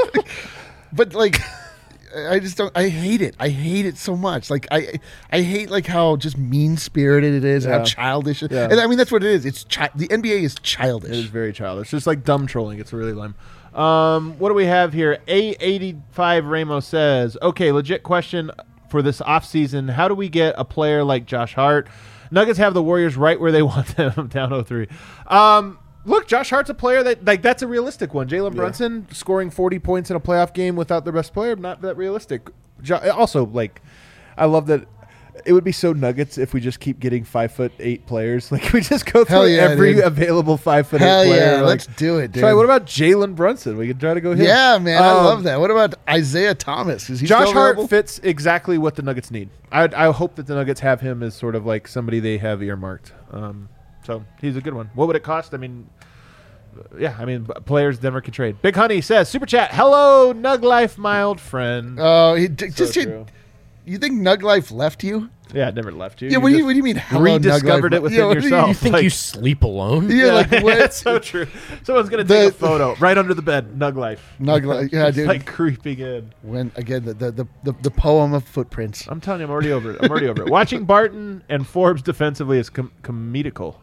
But like I just don't I hate it. I hate it so much. Like I I hate like how just mean spirited it is, Yeah. how childish it Yeah. And I mean that's what it is. It's chi- the N B A is childish. It is very childish. It's just like dumb trolling. It's really lame. Um, what do we have here? A eighty-five Ramos says, okay, legit question for this offseason. How do we get a player like Josh Hart? Nuggets have the Warriors right where they want them, down oh three. Um, look, Josh Hart's a player that, like, that's a realistic one. Jalen Brunson scoring forty points in a playoff game without the best player, not that realistic. Jo- also, like, I love that It would be so Nuggets if we just keep getting five foot eight players. Like we just go Hell through yeah, every dude. available five foot Hell eight player. yeah, like, let's do it, dude. Try. What about Jalen Brunson? We could try to go him. Yeah, man, I Um, love that. What about Isaiah Thomas? Is he Josh still Hart available? fits exactly what the Nuggets need. I I hope that the Nuggets have him as sort of like somebody they have earmarked. Um, so he's a good one. What would it cost? I mean, yeah, I mean b- players Denver can trade. Big Honey says super chat. Hello, Nug Life, my old friend. Oh, he d- So just true. you, you think Nug Life left you? Yeah, it never left you. Yeah, what do you just what do you mean? Hello, rediscovered Nug it Life? within Yeah, what do you- yourself. You think Like- you sleep alone? Yeah, like what? That's so true. Someone's gonna take The- a photo right under the bed. Nug Life. Nug Life, yeah, It's dude. like creeping in. When again the the, the the the poem of footprints. I'm telling you, I'm already over it. I'm already over it. Watching Barton and Forbes defensively is com- comedical.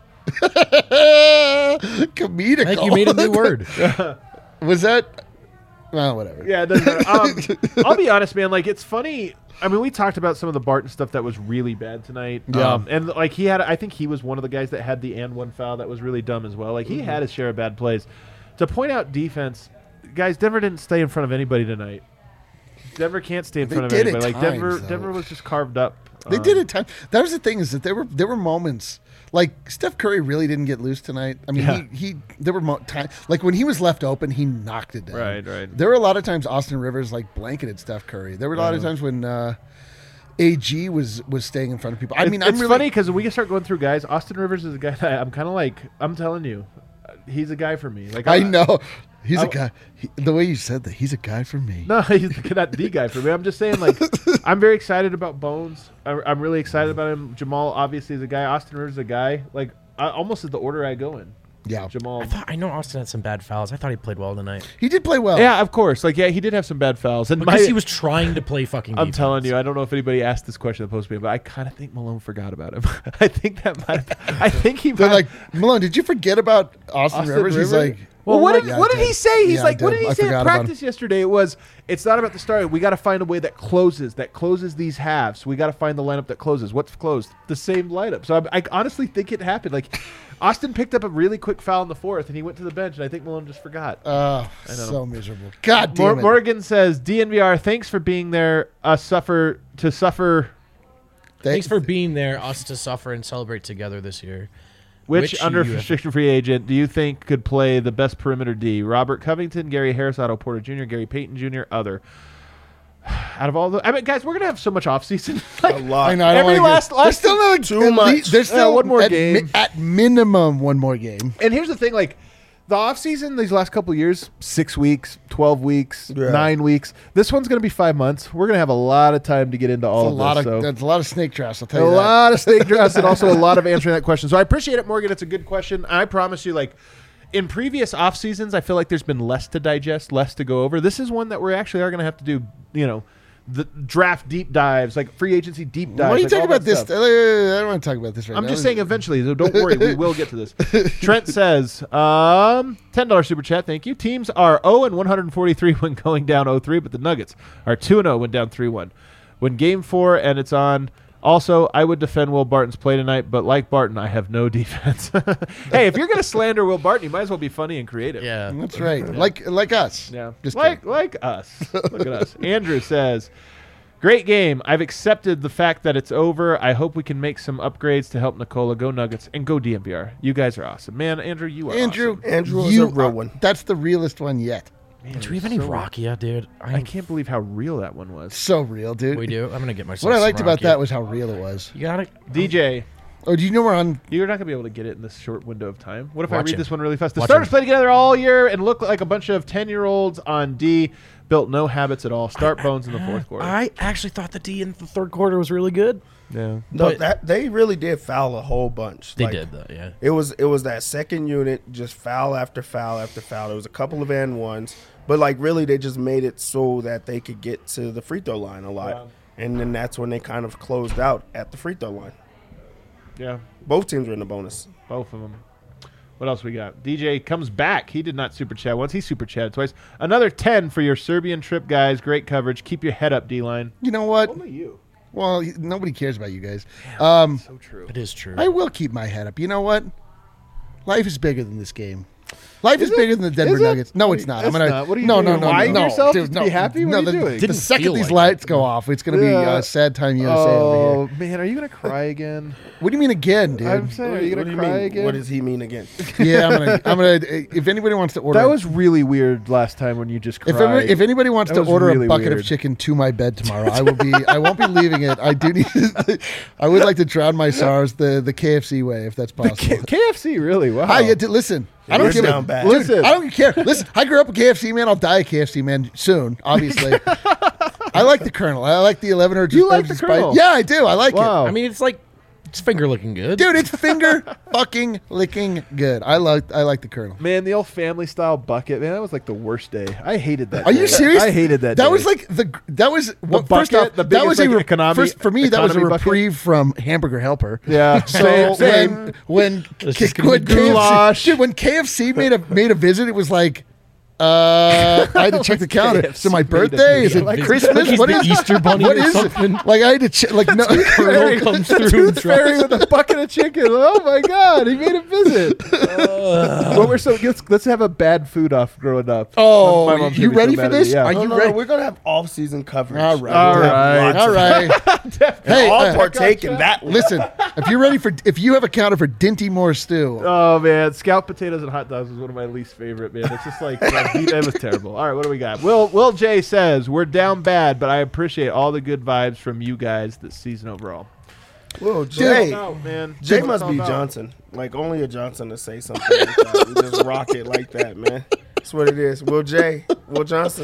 Comedical. I think you made a new word. Was that? Well, whatever. Yeah, it doesn't matter. Um, I'll be honest, man. Like, it's funny. I mean, we talked about some of the Barton stuff that was really bad tonight. Yeah. Um, and, like, he had, I think he was one of the guys that had the and one foul that was really dumb as well. Like, he Mm-hmm. had his share of bad plays. To point out defense, guys, Denver didn't stay in front of anybody tonight. Denver can't stay in They front of did at anybody. Like, Denver, times, though. Denver was just carved up. They Um, did it time. That was the thing is that there were there were moments like Steph Curry really didn't get loose tonight. I mean, Yeah. he, he there were mo- time like when he was left open, he knocked it down. Right, right. There were a lot of times Austin Rivers like blanketed Steph Curry. There were a lot of times when uh, A G was was staying in front of people. I It's- mean, it's I'm really, funny because we can start going through guys. Austin Rivers is a guy that I'm kind of like. I'm telling you, uh, he's a guy for me. Like I I'm- know he's a I- guy. He, the way you said that, he's a guy for me. No, he's not the guy for me. I'm just saying, like, I'm very excited about Bones. I'm, I'm really excited about him. Jamal obviously is a guy. Austin Rivers is a guy. Like, I, almost is the order I go in. Yeah, Jamal. I thought I know Austin had some bad fouls. I thought he played well tonight. he did play well. Yeah, of course. Like, yeah, he did have some bad fouls. And Because my, he was trying to play fucking I'm defense. telling you, I don't know if anybody asked this question in the post game, but I kind of think Malone forgot about him. I think that might. I think he. They're might, like, Malone, did you forget about Austin, Austin Rivers? He's Rivers? like, Well, oh, what right, did yeah, what I did he say? He's Yeah, like, I what did. did he I say in forgot about him. practice yesterday? It was, it's not about the start. We got to find a way that closes, that closes these halves. We got to find the lineup that closes. What's closed? The same lineup. So I, I honestly think it happened. Like, Austin picked up a really quick foul in the fourth, and he went to the bench, and I think Malone just forgot. Oh, know. so miserable. God damn Mor- it. Morgan says, D N V R, thanks for being there. Uh, suffer to suffer. Thanks for being there, us to suffer and celebrate together this year. Which, Which under you have- restricted free agent do you think could play the best perimeter D? Robert Covington, Gary Harris, Otto Porter Junior, Gary Payton Junior, other. Out of all the, I mean, guys, we're gonna have so much offseason. A like, lot. I know. I don't Every wanna last- get, last- there's still another Too at much. least- there's Yeah, still one more at, game. at minimum one more game. And here's the thing, like the offseason these last couple of years, six weeks, twelve weeks, Yeah. nine weeks. This one's gonna be five months. We're gonna have a lot of time to get into all It's a of lot this. of so. that's a lot of snake drafts. I'll tell A you that. lot of steak drafts and also a lot of answering that question. So I appreciate it, Morgan. It's a good question. I promise you, like in previous off seasons, I feel like there's been less to digest, less to go over. This is one that we actually are going to have to do. You know, the draft deep dives, like free agency deep dives. Why are you like talking all that about this? stuff. I don't want to talk about this right I'm now. just saying eventually, so don't worry, we will get to this. Trent says, um, ten dollars super chat, thank you. Teams are oh and one forty-three when going down oh three, but the Nuggets are two and oh when down three one. When game four and it's on, also, I would defend Will Barton's play tonight, but like Barton, I have no defense. Hey, if you're going to slander Will Barton, you might as well be funny and creative. Yeah. That's right. Like like us. Yeah. Just like kidding. like us. Look at us. Andrew says, great game. I've accepted the fact that it's over. I hope we can make some upgrades to help Nikola. Go Nuggets and go D M V R. You guys are awesome. Man, Andrew, you are Andrew, awesome. Andrew is you a real are- one. That's the realest one yet. Man, Do we have you're any so- Rakia, dude? I can't believe how real that one was. So real, dude. We do. I'm gonna get myself. What I some liked about Rakia. that was how real it was. You got it. D J, Oh, do you know we're on? you're not going to be able to get it in this short window of time. What if I Watch read him. this one really fast? The Watch starters him. play together all year and look like a bunch of ten-year-olds on D, built no habits at all. Start Bones in the fourth quarter. I actually thought the D in the third quarter was really good. yeah. No, But- that they really did foul a whole bunch. They Like, did though. Yeah. It was it was that second unit, just foul after foul after foul. There was a couple of and ones, but like really they just made it so that they could get to the free throw line a lot, Wow. and then that's when they kind of closed out at the free throw line. Yeah. Both teams were in the bonus. Both of them. What else we got? D J comes back. He did not super chat once. He super chatted twice. Another ten for your Serbian trip, guys. Great coverage. Keep your head up, D-line. You know what? Only you. Well, he- nobody cares about you guys. Um, So true. It is true. I will keep my head up. You know what? Life is bigger than this game. Life is, Is it? bigger than the Denver Is it? Nuggets. No, What it's do you- not. it's I'm gonna. not. What are you no, doing? no, no, Lying no, to yourself dude, to be no. happy? What No, are you the, doing? The Didn't second feel these like lights it. go off, it's gonna be Yeah. uh, sad time U S A over Oh here. man, are you gonna cry again? What do you mean again, dude? I'm saying, are you What gonna do you cry mean? again? What does he mean again? yeah, I'm gonna. I'm gonna. If anybody wants to order, That was really weird last time when you just cried. If, every, if anybody wants That to was order really a bucket weird. of chicken to my bed tomorrow, I will be. I won't be leaving it. I do need. I would like to drown my sorrows the the K F C way, if that's possible. K- KFC, really? Wow. I get to listen. I don't We're give down a bad. dude, Listen. I don't care. Listen, I grew up a K F C man. I'll die a K F C man soon. Obviously, I like the Colonel. I like the eleven or You like the Colonel? Yeah, I do. I like Wow. it. I mean, it's like it's finger looking good, Dude, it's finger fucking licking good. I like. I like the Colonel. Man, the old family style bucket, man, that was like the worst day. I hated that. Are day. you serious? I hated that. That day. was like the that was well, first bucket, off the that was biggest, a like, re- economy- first for me that was a economy bucket? reprieve from Hamburger Helper. yeah. So same, same. when when, It's K- just gonna when be K F C, goulash. dude, when K F C made a made a visit, it was like. Uh, I had to check the calendar. Is it my K F C made a birthday? Is visit. it Like, Christmas? he's What the is Easter bunny what or is it? something. Like I had to check. Like no. Colonel comes through. and Tooth Fairy drops- with a bucket of chicken. Oh my god, he made a visit. Well, we're so let's, let's have a bad food off growing up. Oh, My mom's you gonna be so ready for mad at me, this? yeah. Are No, you no, ready? no, we're gonna have off season coverage. All right. All We're gonna have right. lots All of- right. hey, all uh, partake in that. listen. If you're ready for, if you have a counter for Dinty Moore stew, Oh man, scalloped potatoes and hot dogs was one of my least favorite. Man, it's just like uh, it was terrible. All right, what do we got? Will Will J says we're down bad, but I appreciate all the good vibes from you guys this season overall. Whoa, Jay. Oh, man, Jay What's must all be about? Johnson. Like only a Johnson to say something like that. We just rock it like that, man. That's what it is. Will Jay. Will Johnson.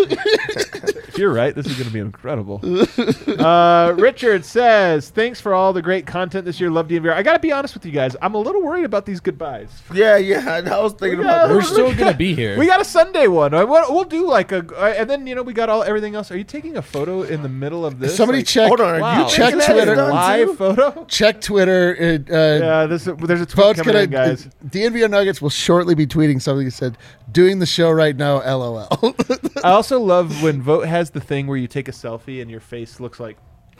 If you're right, this is going to be incredible. uh, Richard says, thanks for all the great content this year. Love D N V R. I got to be honest with you guys. I'm a little worried about these goodbyes. Yeah, yeah. I was thinking We about got- We're that. still gonna be here. We got a Sunday one. I- We'll we'll do like a, uh, and then, you know, we got all everything else. Are you taking a photo in the middle of this? somebody Like, check. Hold on, are Wow. you check thinking that Twitter. is done live too? photo? Check Twitter. Uh, uh, Yeah, this, there's a tweet Vote's coming gonna. in, guys. D N V R Nuggets will shortly be tweeting something that said, "Doing the show right now." L O L. I also love when Vote has the thing where you take a selfie and your face looks like.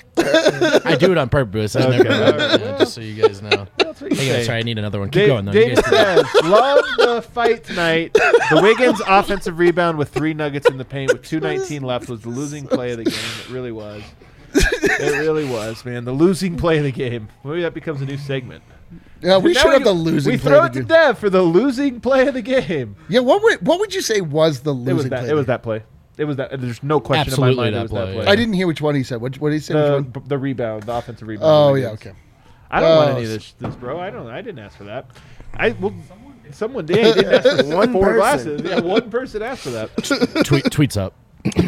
I do it on purpose. I Okay, never, all right. yeah, just so you guys know. That's what you Hang on, say. sorry, I need another one. Keep Dave, going though. You David guys do says, love the fight tonight. The Wiggins offensive rebound with three nuggets in the paint with two nineteen left was the losing play of the game. It really was. It really was, man. The losing play of the game. Maybe that becomes a new segment. Yeah, we Now should have go- the losing. We play throw of it the to game. Dev for the losing play of the game. Yeah, what would what would you say was the losing It was that. play? It was that play. It was that. There's no question Absolutely in my mind. that it was that play, play. yeah. I didn't hear which one he said. What, what did he say? The, Which one? the rebound, the offensive rebound. Oh the yeah, Wiggins. okay. I don't want Oh, any of this, this, bro. I don't. I didn't ask for that. I well, someone did. He didn't ask for One four person. glasses. Yeah, one person asked for that. Tweet, tweets up.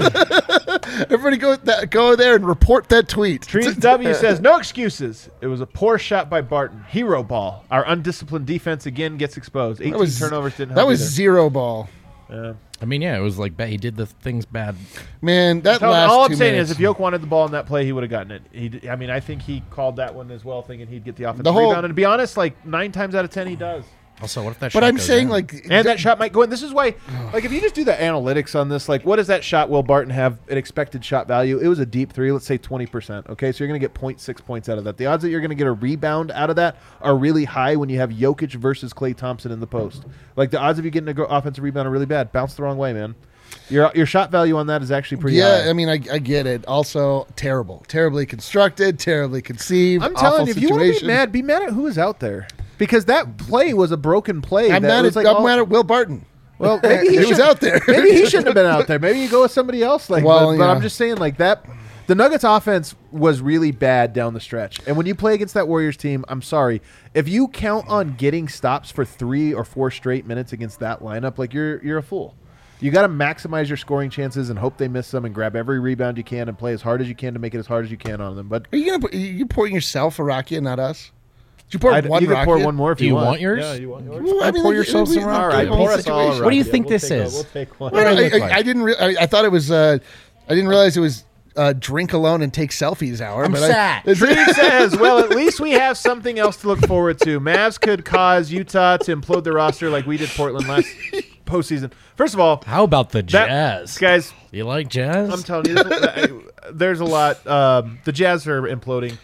Everybody go that, go there and report that tweet. Trees W says no excuses. It was a poor shot by Barton. Hero ball. Our undisciplined defense again gets exposed. eighteen That was turnovers didn't help. That was either. zero ball. Yeah. I mean, yeah, it was like bad. He did the things bad. Man, that Tell- last all I'm two saying minutes. is, if Yoke wanted the ball in that play, he would have gotten it. He, d- I mean, I think he called that one as well, thinking he'd get the offensive The whole- rebound. And to be honest, like nine times out of ten, he does. Also, what if that? but shot I'm goes saying in? like And that shot might go in. This is why, like, if you just do the analytics on this, like, what does that shot Will Barton have an expected shot value? It was a deep three, let's say twenty percent. Okay, so you're going to get zero point six points out of that. The odds that you're going to get a rebound out of that are really high when you have Jokic versus Klay Thompson in the post. Like, the odds of you getting a go- offensive rebound are really bad. Bounce the wrong way, man. Your your shot value on that is actually pretty yeah, high. I mean, I, I get it. Also, terrible, terribly constructed, terribly conceived. I'm telling awful you, if you want to be situation. mad, be mad at who is out there. Because that play was a broken play. I'm that mad was at like I'm all- mad at Will Barton. Well, maybe he, He was should- out there. Maybe he shouldn't have been out there. Maybe you go with somebody else. Like, Well, but, but yeah. I'm just saying, like that. The Nuggets' offense was really bad down the stretch, and when you play against that Warriors team, I'm sorry if you count on getting stops for three or four straight minutes against that lineup. Like you're you're a fool. You got to maximize your scoring chances and hope they miss them, and grab every rebound you can and play as hard as you can to make it as hard as you can on them. But Are you gonna put, you pouring yourself a Rakia, not us? Did you pour I'd, one you can pour Rakia? one more if Do you you want. want yours? Yeah, you want yours. Well, I mean, pour like, yourself we- some we- Rakia. All right, we- pour us all a situation. What do you Rakia. think We'll this take a- is? we'll take one. What do I, they look I, like? I didn't. Re- I, I thought it was. Uh, I didn't realize it was uh, drink alone and take selfies hour. I'm but sad. I, Tree says, well, at least we have something else to look forward to. Mavs could cause Utah to implode their roster like we did Portland last postseason. First of all, How about the that, Jazz? guys, You like Jazz? I'm telling you, there's a, there's a lot. Um, the Jazz are imploding.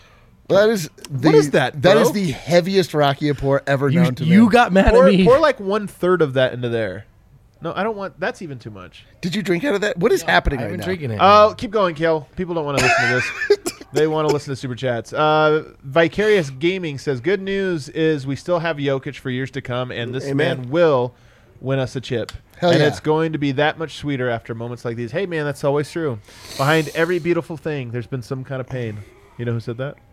That is the, What is that, That bro? is the heaviest rakia pour ever You, known to you man. got mad Pour, at me. pour like one third of that into there. No, I don't want. That's even too much. Did you drink out of that? What is happening I've right been now? drinking it. Oh, keep going, Kale. People don't want to listen to this. They want to listen to super chats. Uh, Vicarious Gaming says, "Good news is we still have Jokic for years to come, and this Amen. man will win us a chip. Hell and yeah. it's going to be that much sweeter after moments like these." Hey, man, that's always true. Behind every beautiful thing, there's been some kind of pain. You know who said that?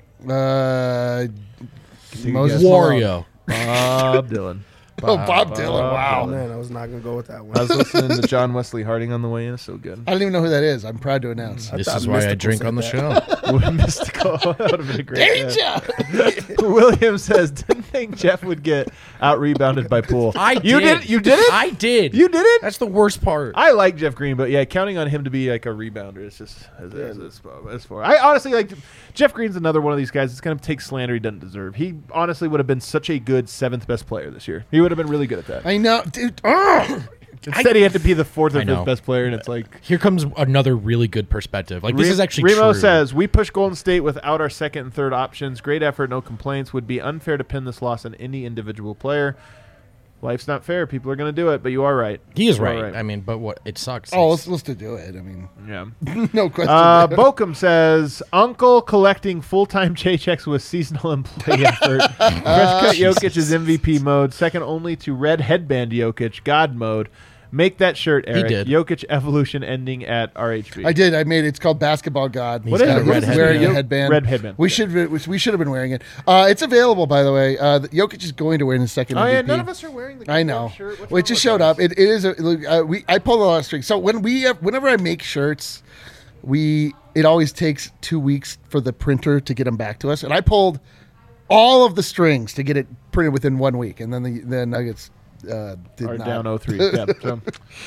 Uh, you Moses guess? Malone. Wario. Bob Dylan. Oh, Bob Dylan. Bob Wow. Oh, man, I was not going to go with that I one. was listening to John Wesley Harding on the way in. It's so good. I don't even know who that is. I'm proud to announce. This thought is why I Mystical drink said on the that. show. Mystical. That would have been a great. Danger! William says, "Didn't think Jeff would get out rebounded by Poole." I You did. did. You did it. I did. You did it. That's the worst part. I like Jeff Green, but yeah, counting on him to be like a rebounder is just as, as, as, as far. I honestly like Jeff Green's another one of these guys that's going to take slander he doesn't deserve. He honestly would have been such a good seventh best player this year. He would have been really good at that. I know, dude. Ugh. Instead, he had to be the fourth or I know. fifth best player, and it's like. Here comes another really good perspective. Like this Re- is actually Remo true. says, "We push Golden State without our second and third options. Great effort, no complaints. Would be unfair to pin this loss on any individual player. Life's not fair. People are going to do it, but you are right. he is You are right. I mean, but what it sucks. Oh, It's- let's, let's do it. I mean, Yeah. no question. Uh, Bokum says, "Uncle collecting full-time paychecks with seasonal employee effort. Fresh cut Jokic is M V P mode, second only to red headband Jokic, God mode. Make that shirt, Eric. did. Jokic evolution ending at R H B. I did. I made it. It's called Basketball God. What is Uh, it? Red he's wearing headband. a headband. Red headband. We should. We should have been wearing it. Uh, it's available, by the way. Uh, the- Jokic is going to win his second Oh, M V P. yeah, none of us are wearing the I goddamn know. shirt. What's Well, it wrong just with showed us? up. It, it is. A, look, uh, we. I pull a lot of strings. So when we, have, whenever I make shirts, we. It always takes two weeks for the printer to get them back to us, and I pulled all of the strings to get it printed within one week, and then the the Nuggets uh, did Are not. down oh three. Yeah, so.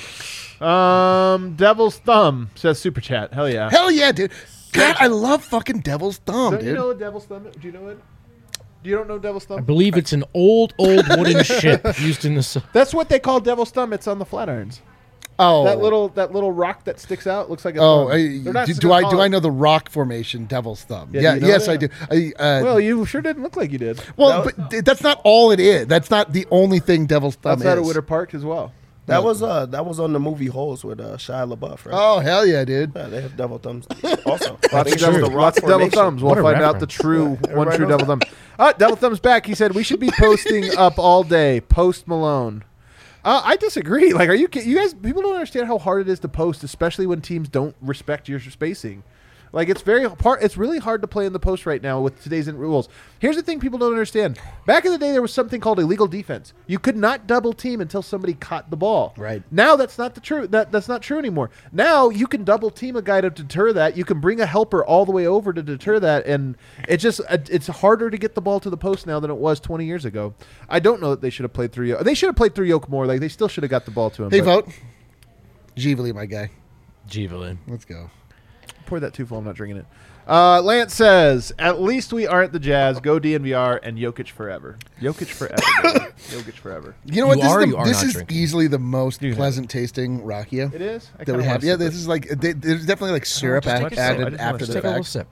Um, Devil's Thumb says super chat. Hell yeah. Hell yeah, dude! God, I love fucking Devil's Thumb, Don't dude. you know what Devil's Thumb? Do you know it? Do you don't know Devil's I Thumb? believe it's an old, old wooden ship used in the. s- That's what they call Devil's Thumb. It's on the Flatirons. oh, That little that little rock that sticks out looks like a Oh, thumb. I, They're not do, just do gonna I call do I it- know the rock formation, Devil's Thumb? Yeah, Yeah, do you know yes, that? I do. I, uh, Well, you sure didn't look like you did. well, but th- that's not all it is. That's not the only thing Devil's Thumb Outside is. of Winter Park as well. That was uh that was on the movie Holes with uh, Shia LaBeouf, right? Oh hell yeah, dude! Yeah, they have devil thumbs also. I Lots think of it was devil, the lots rock of devil formation. thumbs. We'll What a find out the reference. true one everybody true knows devil thumb. Uh, devil thumbs back. He said we should be posting up all day. Post Malone. Uh, I disagree. Like, are you ki- you guys? People don't understand how hard it is to post, especially when teams don't respect your spacing. Like, it's very part. It's really hard to play in the post right now with today's rules. Here's the thing: people don't understand. Back in the day, there was something called illegal defense. You could not double team until somebody caught the ball. Right. Now that's not the true. That that's not true anymore. Now you can double team a guy to deter that. You can bring a helper all the way over to deter that, and it just uh, it's harder to get the ball to the post now than it was twenty years ago. I don't know that they should have played through. Yo- They should have played through Yoke more. Like they still should have got the ball to him. Hey, but- vote. Givali, my guy. Jeevelin. Let's go. Pour that too full. I'm not drinking it. Uh, Lance says, "At least we aren't the Jazz. Go D N V R and Jokic forever. Jokic forever. baby. Jokic forever. You know what? You This are or is, you the, are this not is drinking? easily the most You have pleasant tasting rakia It is. I that kinda we wanna have. Yeah, sip this it. is like they, there's definitely like syrup just add- take a sip. I added just wanna after Just the take a little fact. sip.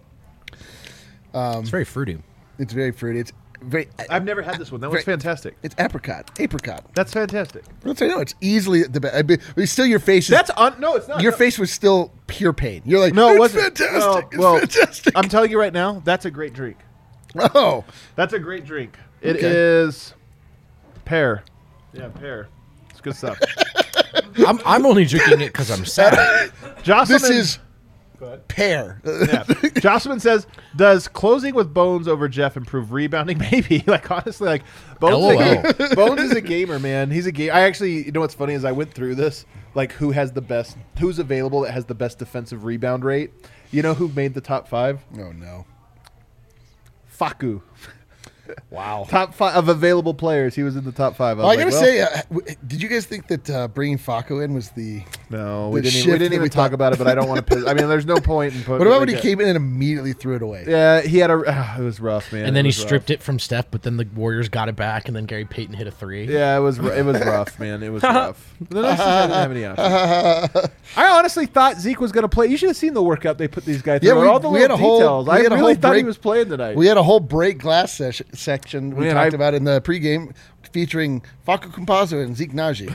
Um, It's very fruity. It's very fruity. It's very. I've never had this one. That one's Very- fantastic. It's apricot. Apricot. That's fantastic. Let's say no. It's easily the best. I mean, but still, your face is. That's on. No, it's not. your No. face was still pure pain. You're like, No, it it's wasn't. fantastic. Well, it's fantastic. I'm telling you right now, that's a great drink. oh, That's a great drink. It Okay. is pear. Yeah, pear. It's good stuff. I'm, I'm only drinking it because I'm sad. Jocelyn, this is pear. yeah. Jocelyn says, "Does closing with Bones over Jeff improve rebounding? Maybe. Like honestly, like Bones. Is a, ga- Bones is a gamer, man. He's a game. I actually, you know what's funny is I went through this. Like who has the best? Who's available that has the best defensive rebound rate? You know who made the top five? Oh no! Faku. Wow. Top five of available players. He was in the top five. Well, I was gotta like, say, uh, w- did you guys think that uh, bringing Faco in was the No, we The didn't. Even, we shift didn't that even we talk thought- about it, but I don't want to. I mean, there's no point in putting. What about when like he a- came in and immediately threw it away? Yeah, he had a. Uh, it was rough, man. And then It he was rough. stripped it from Steph, but then the Warriors got it back, and then Gary Payton hit a three. Yeah, it was. r- It was rough, man. It was rough. The Knicks just didn't have any options. I honestly thought Zeke was going to play. You should have seen the workout they put these guys through. Yeah, we- all the we little had a whole- details. we I had a really whole thought he break- was playing tonight. We had a whole break glass ses- section we Man, talked I- about in the pregame featuring Facu Campazzo and Zeke Naji.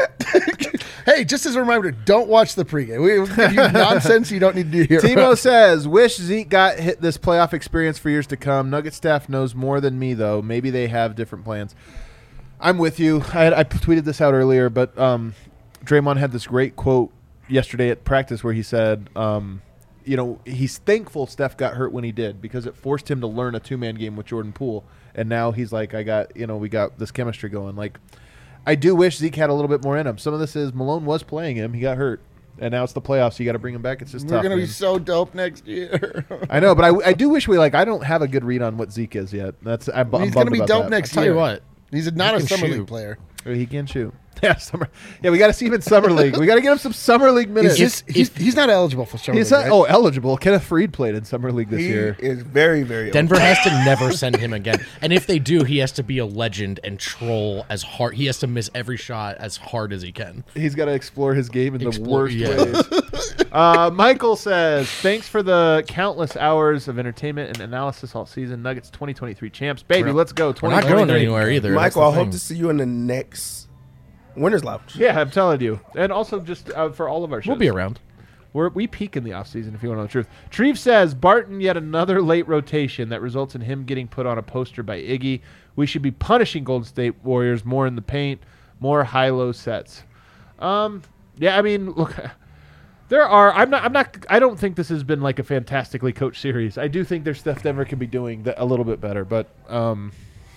Hey, just as a reminder, don't watch the pregame. We will give you nonsense you don't need to hear. Timo says, wish Zeke got hit this playoff experience for years to come. Nugget staff knows more than me, though. Maybe they have different plans. I'm with you. I, had, I tweeted this out earlier, but um, Draymond had this great quote yesterday at practice where he said, um, you know, he's thankful Steph got hurt when he did because it forced him to learn a two-man game with Jordan Poole. And now he's like, I got, you know, we got this chemistry going. Like, I do wish Zeke had a little bit more in him. Some of this is Malone was playing him. He got hurt. And now it's the playoffs. So you got to bring him back. It's just We're tough. going to be man. so dope next year. I know, but I, I do wish we, like, I don't have a good read on what Zeke is yet. That's I'm, bu- I'm He's going to bummed be about dope that. next Tell year. you what, He's not a He can summer shoot. league player. He can shoot. Yeah, summer. Yeah, we got to see him in summer league. We got to get him some summer league minutes. He's, just, he's, he's not eligible for summer He's league, not, right? oh eligible. Kenneth Freed played in summer league this He year. is very, very Denver old. has to never send him again. And if they do, he has to be a legend and troll as hard. He has to miss every shot as hard as he can. He's got to explore his game in the Explore- worst yeah. ways. uh, Michael says, thanks for the countless hours of entertainment and analysis all season. Nuggets twenty twenty-three champs. Baby, We're- let's go. We're not going anywhere either. Michael, That's I the hope thing. to see you in the next Winners Lounge. Yeah, I'm telling you. And also just uh, for all of our shows. We'll be around. We're, we peak in the offseason, if you want to know the truth. Treve says, Barton yet another late rotation that results in him getting put on a poster by Iggy. We should be punishing Golden State Warriors more in the paint, more high-low sets. Um, yeah, I mean, look, there are. I'm not. I'm not. I don't think this has been like a fantastically coached series. I do think there's stuff Denver can be doing that a little bit better, but um,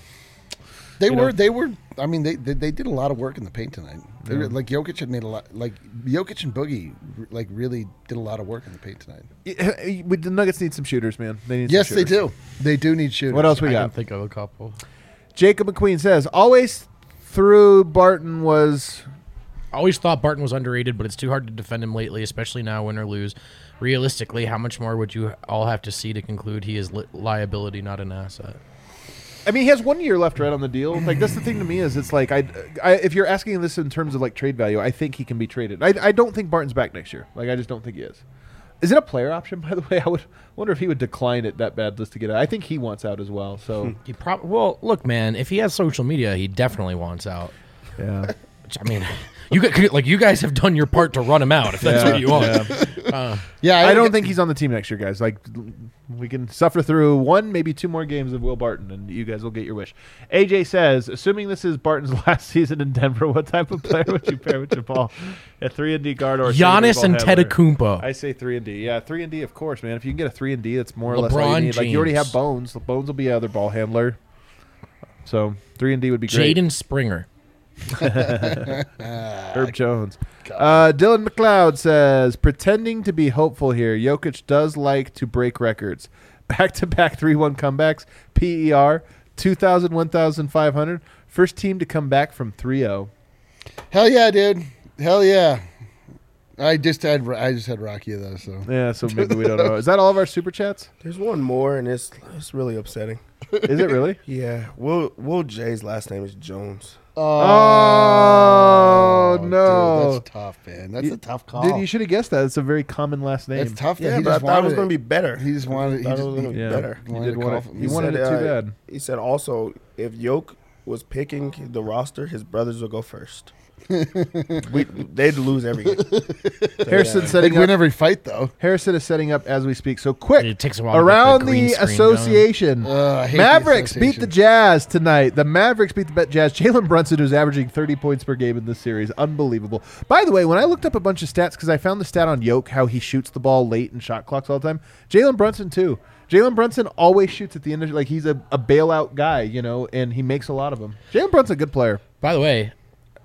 They you were, know. they were. I mean, they, they they did a lot of work in the paint tonight. They were, Yeah. like Jokic had made a lot. Like Jokic and Boogie, like really did a lot of work in the paint tonight. y- we- the Nuggets need some shooters, man. They need. Yes, some they shooters. do. They do need shooters. What else we I got? can think of a couple. Jacob McQueen says, always through Barton was. I always thought Barton was underrated, but it's too hard to defend him lately, especially now, win or lose. Realistically, how much more would you all have to see to conclude he is li- liability, not an asset? I mean, he has one year left, right, on the deal. Like, that's the thing to me is it's like, I, I, if you're asking this in terms of, like, trade value, I think he can be traded. I, I don't think Barton's back next year. Like, I just don't think he is. Is it a player option, by the way? I would wonder if he would decline it that bad just to get out. I think he wants out as well, so. He prob- well, look, man, if he has social media, he definitely wants out. yeah. Which, I mean, you gu- like you guys have done your part to run him out. If that's Yeah, what you want. yeah. Uh, Yeah, I don't think he's on the team next year, guys. Like, we can suffer through one, maybe two more games of Will Barton, and you guys will get your wish. A J says, assuming this is Barton's last season in Denver, what type of player would you pair with Jamal? A three and D guard or a Giannis three and and D ball handler? Tedecumpo. I say three and D. Yeah, three and D, of course, man. If you can get a three and D, that's more or less all LeBron you need. Like, you already James. have Bones. Bones will be another ball handler. So three and D would be great. Jaden Springer. Herb Jones. Uh, Dylan McLeod says, pretending to be hopeful here. Jokic does like to break records. Back-to-back three one comebacks. P E R, two thousand, one thousand five hundred. First team to come back from three oh. Hell yeah, dude. Hell yeah. I just had I just had Rocky though. So Yeah, so maybe we don't know. Is that all of our super chats? There's one more, and it's it's really upsetting. Is it really? Yeah, Will Will J's last name is Jones. Oh, dude, no. that's tough, man. That's You- a tough call. Dude, you should have guessed that. It's a very common last name. It's tough. That Yeah, he but I just thought it was wanted going to be better. He just wanted. He Thought it just was gonna be Yeah, better. he Wanted did to want call it. for- He he wanted it said, too uh, bad. He said also, if Yoke was picking the roster, his brothers would go first. we, they'd lose every game. Harrison They setting win up. every fight though. Harrison is setting up as we speak. So quick, It takes a while to get around the the, green screen association, Uh, I hate the Mavericks beat the association. Jazz tonight. The Mavericks beat the Jazz. Jalen Brunson, who's averaging thirty points per game in this series, unbelievable. By the way, when I looked up a bunch of stats, because I found the stat on Yoke, how he shoots the ball late in shot clocks all the time. Jalen Brunson too. Jalen Brunson always shoots at the end of like he's a, a bailout guy, you know, and he makes a lot of them. Jalen Brunson's a good player. By the way,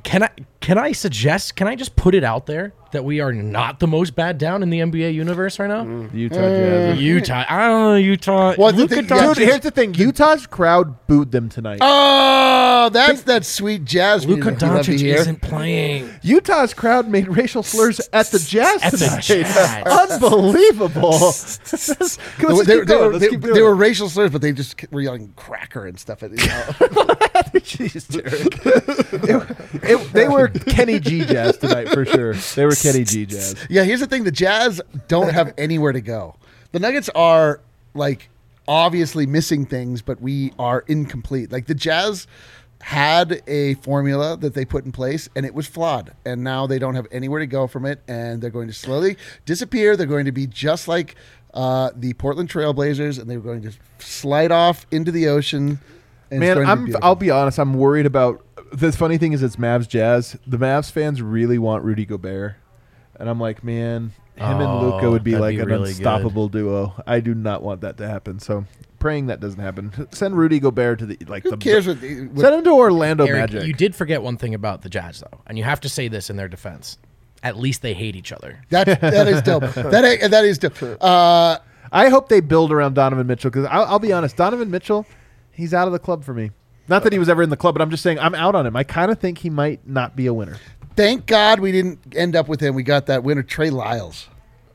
Can I can I suggest? Can I just put it out there that we are not the most bad down in the N B A universe right now? The Utah Jazz. Utah, I don't know Utah. Well, the Luka thing- Doncic- Dude, here's the thing. Utah's crowd booed them tonight. Oh, that's that sweet jazz Luka music we love to Doncic hear. isn't playing. Utah's crowd made racial slurs at the Jazz At the tonight. Jazz. Unbelievable. Let's They, keep they- going. they- Let's they- keep they doing were it. racial slurs, but they just were yelling cracker and stuff. At, you know. Jeez, Derek. It- it- they were Kenny G Jazz tonight for sure. They were Kenny G Jazz. Yeah, here's the thing: the Jazz don't have anywhere to go. The Nuggets are like obviously missing things, but we are incomplete. Like the Jazz had a formula that they put in place, and it was flawed. And now they don't have anywhere to go from it, and they're going to slowly disappear. They're going to be just like uh, the Portland Trailblazers, and they're going to slide off into the ocean. And it's Man, going to be I'm. beautiful. I'll be honest. I'm worried about. The funny thing is, it's Mavs Jazz. The Mavs fans really want Rudy Gobert, and I'm like, man, him and Oh, Luca would be that'd like be an really unstoppable duo. I do not want that to happen. So praying that doesn't happen. Send Rudy Gobert to the like. Who the, cares what, they- what Send him to Orlando Eric, Magic. you did forget one thing about the Jazz, though, and you have to say this in their defense. At least they hate each other. that that is dope. That is- that is dope. Uh, I hope they build around Donovan Mitchell because I'll, I'll be honest, Donovan Mitchell, he's out of the club for me. Not that he was ever in the club, but I'm just saying I'm out on him. I kind of think he might not be a winner. Thank God we didn't end up with him. We got that winner, Trey Lyles.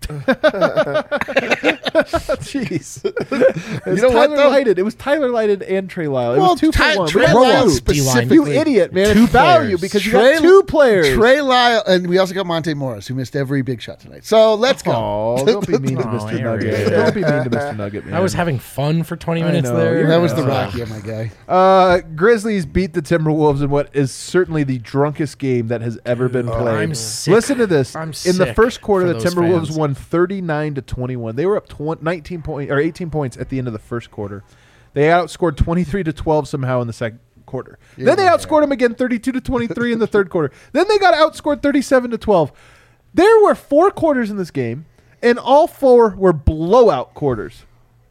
Jeez, It was know what, Tyler though? Lighted. It was Tyler Lighted and Trey Lyle. It Well, was two Ty- for one. Trey We Lyles had two. specifically. You idiot, man! Two It's value players. because you Trey- got two players. Trey Lyle, and we also got Monte Morris, who missed every big shot tonight. So let's go. Oh, don't be mean to Aw, Mister Eric. Nugget. Don't be mean to Mister Nugget, man. I was having fun for twenty I minutes know, there. you're That was the Uh, Rocky, my guy. Uh, Grizzlies beat the Timberwolves in what is certainly the drunkest game that has ever been played. I'm sick. Listen to this. I'm in the sick first quarter, for the those Timberwolves fans. won thirty-nine to twenty-one. They were up tw- nineteen point or eighteen points at the end of the first quarter. They outscored twenty-three to twelve somehow in the second quarter. Then they Yeah. outscored them again thirty-two to twenty-three in the third quarter. Then they got outscored thirty-seven to twelve. There were four quarters in this game, and all four were blowout quarters.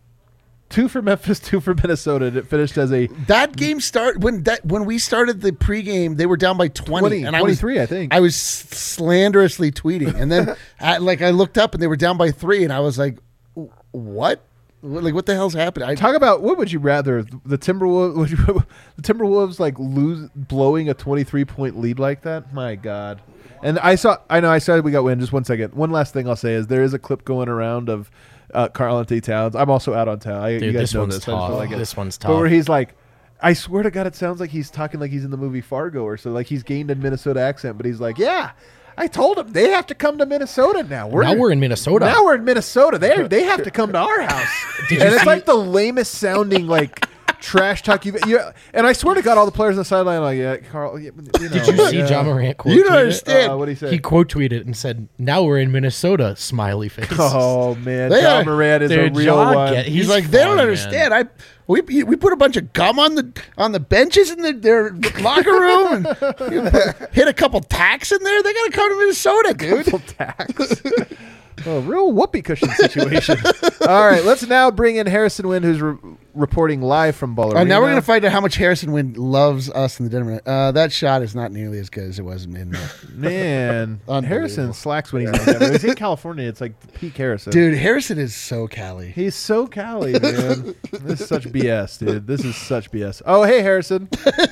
Two for Memphis, two for Minnesota, and it finished as a That game start when that when we started the pregame, they were down by twenty, twenty, and I was twenty-three, I think. I was slanderously tweeting, and then I, like I looked up and they were down by three, and I was like, "What? Like what the hell's happening?" I, Talk about what would you rather the Timberwolves would you, the Timberwolves like lose blowing a twenty-three point lead like that? My God! And I saw I know I said we got win. Just one second. One last thing I'll say is there is a clip going around of uh, Karl Anthony Towns. I'm also out on Town. I, you Dude, guys this know one's this. I just tough. feel like it. This one's But where tough. he's like, I swear to God, it sounds like he's talking like he's in the movie Fargo or so. Like he's gained a Minnesota accent, but he's like, yeah. I told him they have to come to Minnesota now. We're Now we're in Minnesota. Now we're in Minnesota. They they have to come to our house. Did and you it's see- like the lamest sounding like trash talk you've. You, and I swear to God, all the players on the sideline are like, yeah, Carl. You know, Did you see yeah. John Morant quote You don't tweet it? understand. Uh, what did he say? He quote tweeted and said, "Now we're in Minnesota." Smiley face. Oh man, They John are- Moran is Dude, a real John one. get- He's, He's like, they fun, don't man. understand. I we we put a bunch of gum on the on the benches in the, their locker room and you put- hit a couple tacks in there. They gotta come to Minnesota, dude. Tax. Oh, real whoopee cushion situation. All right, let's now bring in Harrison Wind, who's re- reporting live from Ball Uh, Arena. now we're gonna find out how much Harrison Wind loves us in the Denver. Uh, that shot is not nearly as good as it was in there. Man, Unbelievable. Harrison slacks when he's in Denver. He's in California. It's like peak Harrison. Dude, Harrison is so Cali. He's so Cali, man. This is such B S, dude. This is such B S. Oh, hey, Harrison.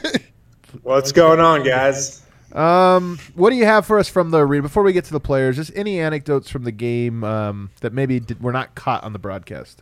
What's going on, guys? Um, what do you have for us from the arena? Before we get to the players, just any anecdotes from the game um, that maybe did, were not caught on the broadcast?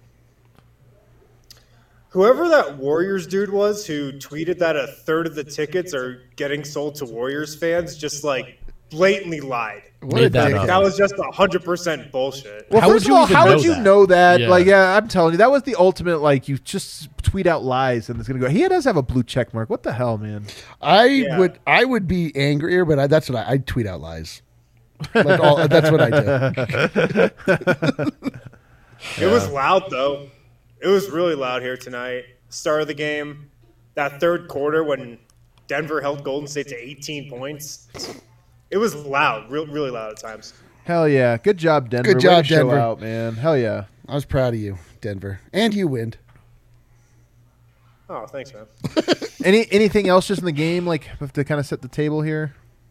Whoever that Warriors dude was who tweeted that a third of the tickets are getting sold to Warriors fans just like blatantly lied. What Made a that dick. up. That was just one hundred percent bullshit. Well, How first would you of all, even how know would you that? know that? Yeah. Like, yeah, I'm telling you, that was the ultimate. Like, you just tweet out lies and it's gonna go. He does have a blue check mark. What the hell, man? I Yeah. would I would be angrier, but I, that's what I I tweet out lies. Like all, that's what I do. It was loud though. It was really loud here tonight. Start of the game, that third quarter when Denver held Golden State to eighteen points. It was loud, real, really loud at times. Hell yeah, good job, Denver. Good Way job, to show Denver. out, man. Hell yeah. I was proud of you, Denver, and you, Wind. Oh, thanks, man. Any anything else just in the game, like to kind of set the table here?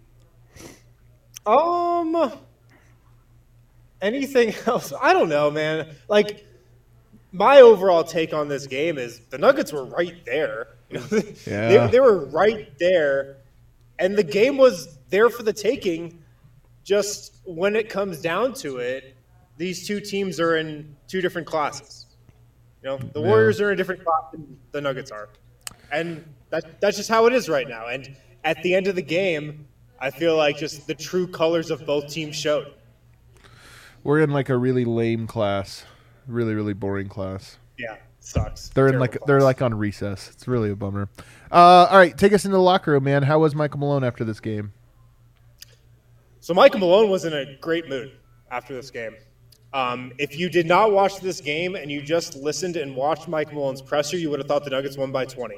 Um, anything else? I don't know, man. Like, my overall take on this game is the Nuggets were right there. You know, Yeah. they, they were right there, and the game was there for the taking. Just when it comes down to it, these two teams are in two different classes. You know, the Yeah. Warriors are in a different class than the Nuggets are, and that that's just how it is right now. And at the end of the game, I feel like just the true colors of both teams showed. We're in like a really lame class, really really boring class. Yeah, sucks. They're in Terrible like class. they're like on recess. It's really a bummer. Uh, all right, take us into the locker room, man. How was Michael Malone after this game? So Michael Malone was in a great mood after this game. Um, if you did not watch this game and you just listened and watched Michael Malone's presser, you would have thought the Nuggets won by twenty.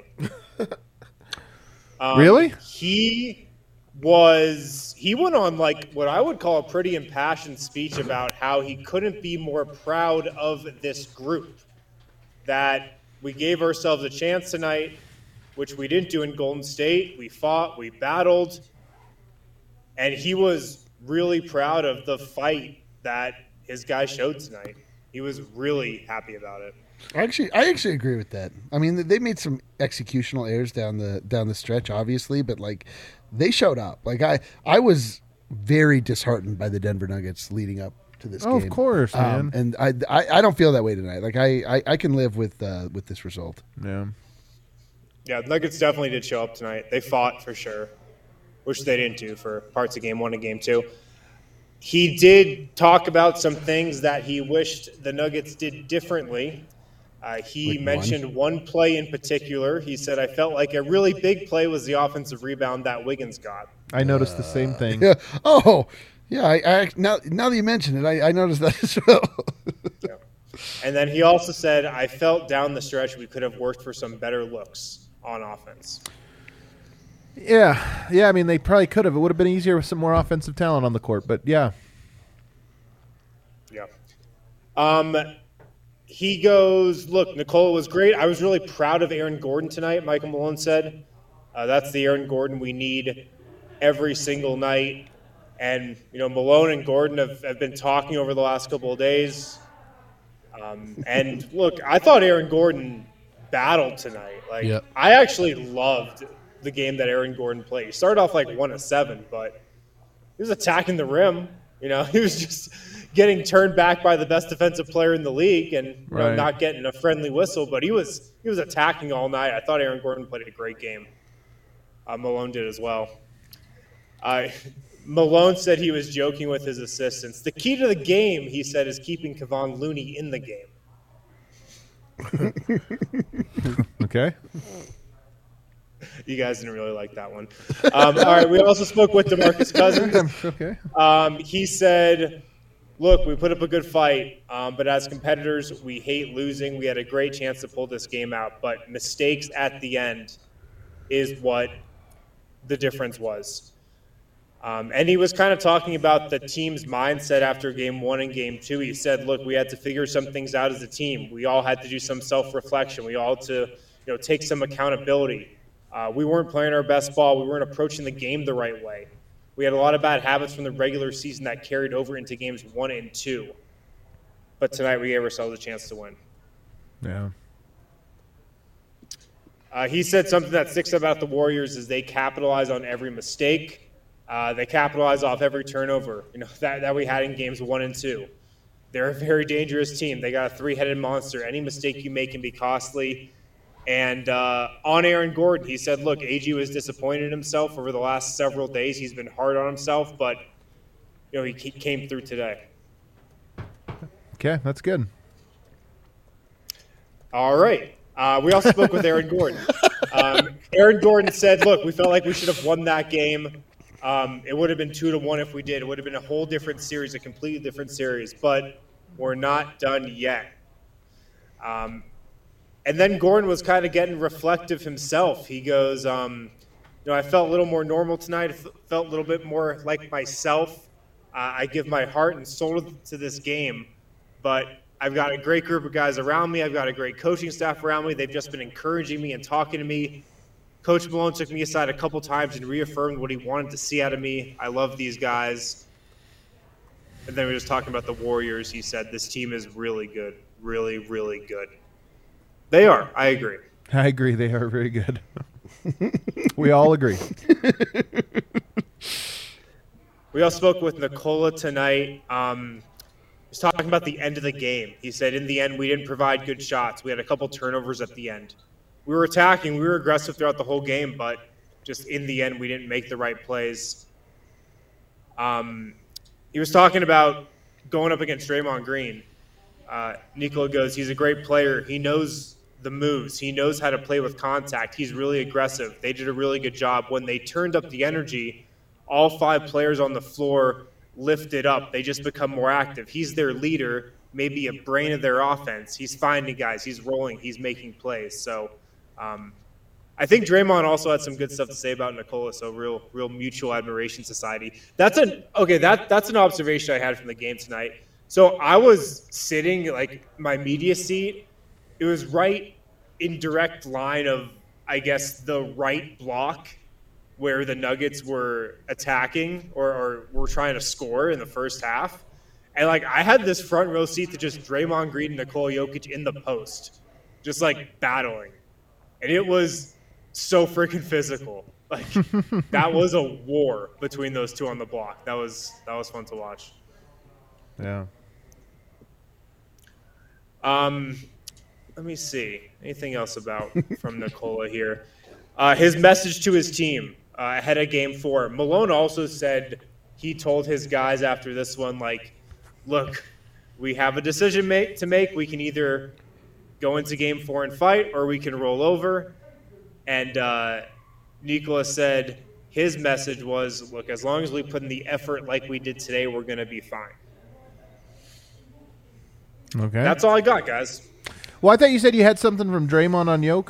Um, Really? He was he went on like what I would call a pretty impassioned speech about how he couldn't be more proud of this group. That we gave ourselves a chance tonight, which we didn't do in Golden State. We fought, we battled, and he was really proud of the fight that his guy showed tonight. He was really happy about it. Actually, I actually agree with that. I mean, they made some executional errors down the down the stretch, obviously, but like they showed up. Like I, I was very disheartened by the Denver Nuggets leading up to this Oh, game. of course, man. Um, and I, I, I don't feel that way tonight. Like I, I, I can live with uh, with this result. Yeah. Yeah, the Nuggets definitely did show up tonight. They fought for sure, which they didn't do for parts of game one and game two. He did talk about some things that he wished the Nuggets did differently. Uh, he Like one? mentioned one play in particular. He said, I felt like a really big play was the offensive rebound that Wiggins got. I noticed the same thing. Yeah. Oh, yeah. I, I now now that you mention it, I, I noticed that as well. Yeah. And then he also said, I felt down the stretch we could have worked for some better looks on offense. Yeah, yeah. I mean, they probably could have. It would have been easier with some more offensive talent on the court. But yeah, Yeah. Um, he goes, look, Nikola was great. I was really proud of Aaron Gordon tonight, Michael Malone said. Uh, that's the Aaron Gordon we need every single night. And, you know, Malone and Gordon have, have been talking over the last couple of days. Um, and, look, I thought Aaron Gordon battled tonight. Like, Yep. I actually loved the game that Aaron Gordon played. He started off like one of seven, but he was attacking the rim. You know, he was just getting turned back by the best defensive player in the league, and you know, Right. not getting a friendly whistle. But he was he was attacking all night. I thought Aaron Gordon played a great game. Uh, Malone did as well. Uh, Malone said he was joking with his assistants. The key to the game, he said, is keeping Kevon Looney in the game. okay. You guys didn't really like that one. Um, all right, we also spoke with DeMarcus Cousins. Okay. Um, he said, look, we put up a good fight, um, but as competitors, we hate losing. We had a great chance to pull this game out, but mistakes at the end is what the difference was. Um, and he was kind of talking about the team's mindset after game one and game two. He said, look, we had to figure some things out as a team. We all had to do some self-reflection. We all had to, you know, take some accountability. Uh, we weren't playing our best ball. We weren't approaching the game the right way. We had a lot of bad habits from the regular season that carried over into games one and two. But tonight we gave ourselves a chance to win. Yeah. Uh, he said something that sticks about the Warriors is they capitalize on every mistake. Uh, they capitalize off every turnover, you know, that, that we had in games one and two. They're a very dangerous team. They got a three-headed monster. Any mistake you make can be costly. And uh, on Aaron Gordon, he said, look, A G was disappointed in himself over the last several days. He's been hard on himself, but, you know, he, he came through today. Okay, that's good. All right. Uh, we also spoke with Aaron Gordon. Um, Aaron Gordon said, look, we felt like we should have won that game. Um, it would have been two to one if we did. It would have been a whole different series, a completely different series. But we're not done yet. Um, and then Gordon was kind of getting reflective himself. He goes, um, you know, I felt a little more normal tonight. I felt a little bit more like myself. Uh, I give my heart and soul to this game. But I've got a great group of guys around me. I've got a great coaching staff around me. They've just been encouraging me and talking to me Coach Malone took me aside a couple times and reaffirmed what he wanted to see out of me. I love these guys. And then we were just talking about the Warriors. He said, this team is really good. Really, really good. They are. I agree. I agree. They are very good. We all agree. We all spoke with Nikola tonight. Um, he was talking about the end of the game. He said, in the end, we didn't provide good shots. We had a couple turnovers at the end. We were attacking. We were aggressive throughout the whole game, but just in the end, we didn't make the right plays. Um, he was talking about going up against Draymond Green. Uh, Nikola goes, he's a great player. He knows the moves. He knows how to play with contact. He's really aggressive. They did a really good job. When they turned up the energy, all five players on the floor lifted up. They just become more active. He's their leader, maybe a brain of their offense. He's finding guys. He's rolling. He's making plays. So um, I think Draymond also had some good stuff to say about Nikola. So real, real mutual admiration society. That's an okay. That that's an observation I had from the game tonight. So I was sitting like my media seat. It was right in direct line of, I guess, the right block where the Nuggets were attacking or, or were trying to score in the first half. And, like, I had this front row seat to just Draymond Green and Nikola Jokic in the post, just, like, battling. And it was so freaking physical. Like, that was a war between those two on the block. That was that was fun to watch. Yeah. Um, let me see. Anything else about from Nikola here? Uh, his message to his team uh, ahead of game four. Malone also said he told his guys after this one, like, look, we have a decision make, to make. We can either go into game four and fight, or we can roll over. And uh, Nikola said his message was, look, as long as we put in the effort like we did today, we're going to be fine. Okay. That's all I got, guys. Well, I thought you said you had something from Draymond on Yoke.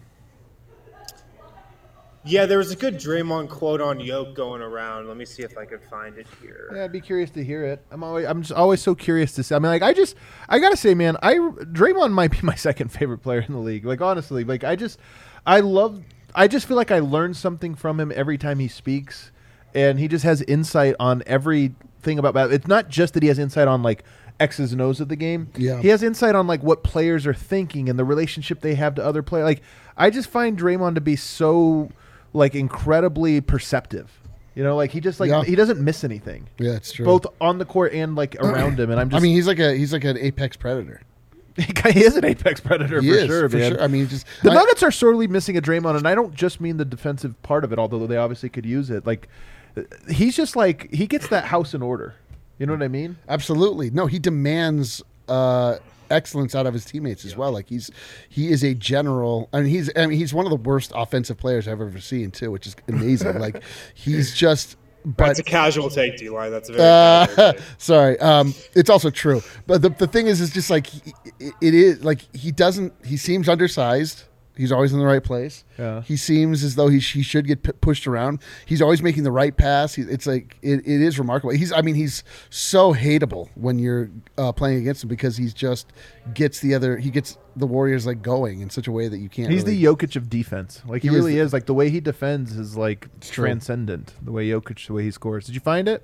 Yeah, there was a good Draymond quote on Yoke going around. Let me see if I could find it here. Yeah, I'd be curious to hear it. I'm always, I'm just always so curious to see. I mean, like, I just, I gotta say, man, I Draymond might be my second favorite player in the league. Like, honestly, like, I just, I love, I just feel like I learn something from him every time he speaks, and he just has insight on everything about. It's not just that he has insight on like X's and O's of the game. Yeah. He has insight on like what players are thinking and the relationship they have to other players. Like, I just find Draymond to be so like incredibly perceptive. You know, like he just like Yeah. he doesn't miss anything. Yeah, it's true. Both on the court and like around him. And I'm I just mean, he's like a he's like an apex predator. he is an apex predator He for is, sure, for man. sure. I mean, just The I- Nuggets are sorely missing a Draymond, and I don't just mean the defensive part of it, although they obviously could use it. Like he's just like he gets that house in order. You know what I mean? Absolutely. No, he demands uh, excellence out of his teammates as well. Like he's he is a general. I mean, he's I mean, he's one of the worst offensive players I've ever seen too, which is amazing. Like he's just. But That's a casual take, D-Line. That's a very Uh, casual take. sorry, um, it's also true. But the the thing is, is just like he, it, it is like he doesn't. He seems undersized. He's always in the right place. Yeah. He seems as though he he should get p- pushed around. He's always making the right pass. He, it's like it, it is remarkable. He's I mean he's so hateable when you're uh, playing against him because he's just gets the other he gets the Warriors like going in such a way that you can't. He's really, the Jokic of defense. Like he, He is really the- is. Like the way he defends is like true. transcendent. The way Jokic, the way he scores. Did you find it?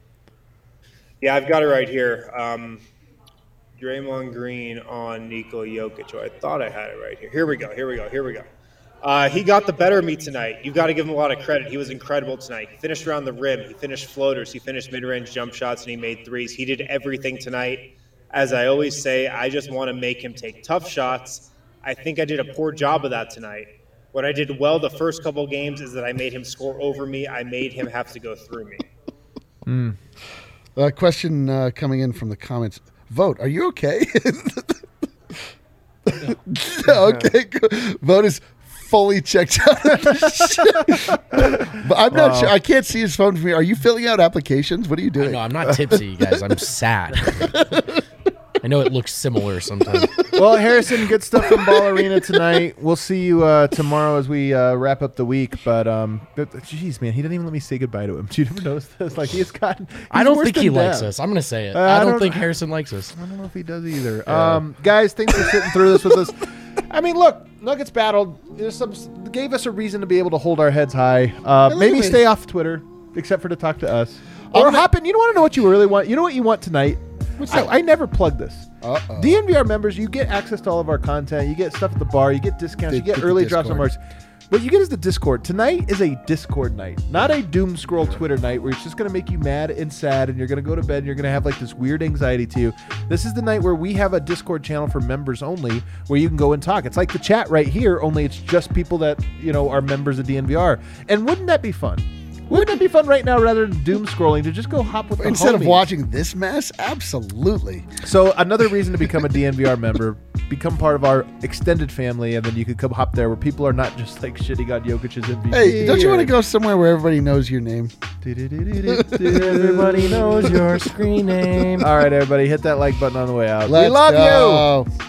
Yeah, I've got it right here. Um, Draymond Green on Nikola Jokic. Oh, I thought I had it right here. Here we go. Here we go. Here we go. Uh, he got the better of me tonight. You've got to give him a lot of credit. He was incredible tonight. He finished around the rim. He finished floaters. He finished mid-range jump shots, and he made threes. He did everything tonight. As I always say, I just want to make him take tough shots. I think I did a poor job of that tonight. What I did well the first couple games is that I made him score over me. I made him have to go through me. Mm. Uh, question uh, coming in from the comments. Vote, are you okay? Okay, good. Vote is fully checked out. But I'm not Wow. sure. I can't see his phone from here. Are you filling out applications? What are you doing? No, I'm not tipsy, you guys. I'm sad. I know it looks similar sometimes. Well, Harrison, good stuff from Ball Arena tonight. We'll see you uh, tomorrow as we uh, wrap up the week. But, um, but, jeez, man, he didn't even let me say goodbye to him. Did you ever notice this? Like, he's gotten. He's I don't worse think than he likes Dad. us. I'm going to say it. Uh, I I don't, don't- think Harrison likes us. I don't know if he does either. Um, guys, thanks for sitting through this with us. I mean, look, Nuggets battled. There's some gave us a reason to be able to hold our heads high. Uh, look maybe at me. stay off Twitter, except for to talk to us. Or I'm not- hop in. You don't want to know what you really want. You know what you want tonight? What's I, that? I never plug this. Uh-oh. D N V R members, you get access to all of our content. You get stuff at the bar. You get discounts. The- you get the early drops on Discord. Marks. What you get is the Discord. Tonight is a Discord night, not a doom scroll Twitter night where it's just going to make you mad and sad and you're going to go to bed and you're going to have like this weird anxiety to you. This is the night where we have a Discord channel for members only where you can go and talk. It's like the chat right here, only it's just people that, you know, are members of D N V R. And wouldn't that be fun? Wouldn't it be fun right now rather than doom scrolling to just go hop with the Instead of homies? watching this mess, absolutely. So another reason to become a D N V R member, become part of our extended family, and then you could come hop there where people are not just like shitting on Jokic's M V P. Hey, don't you want to or- go somewhere where everybody knows your name? Everybody knows your screen name. All right, everybody, hit that like button on the way out. Let's we love you. go.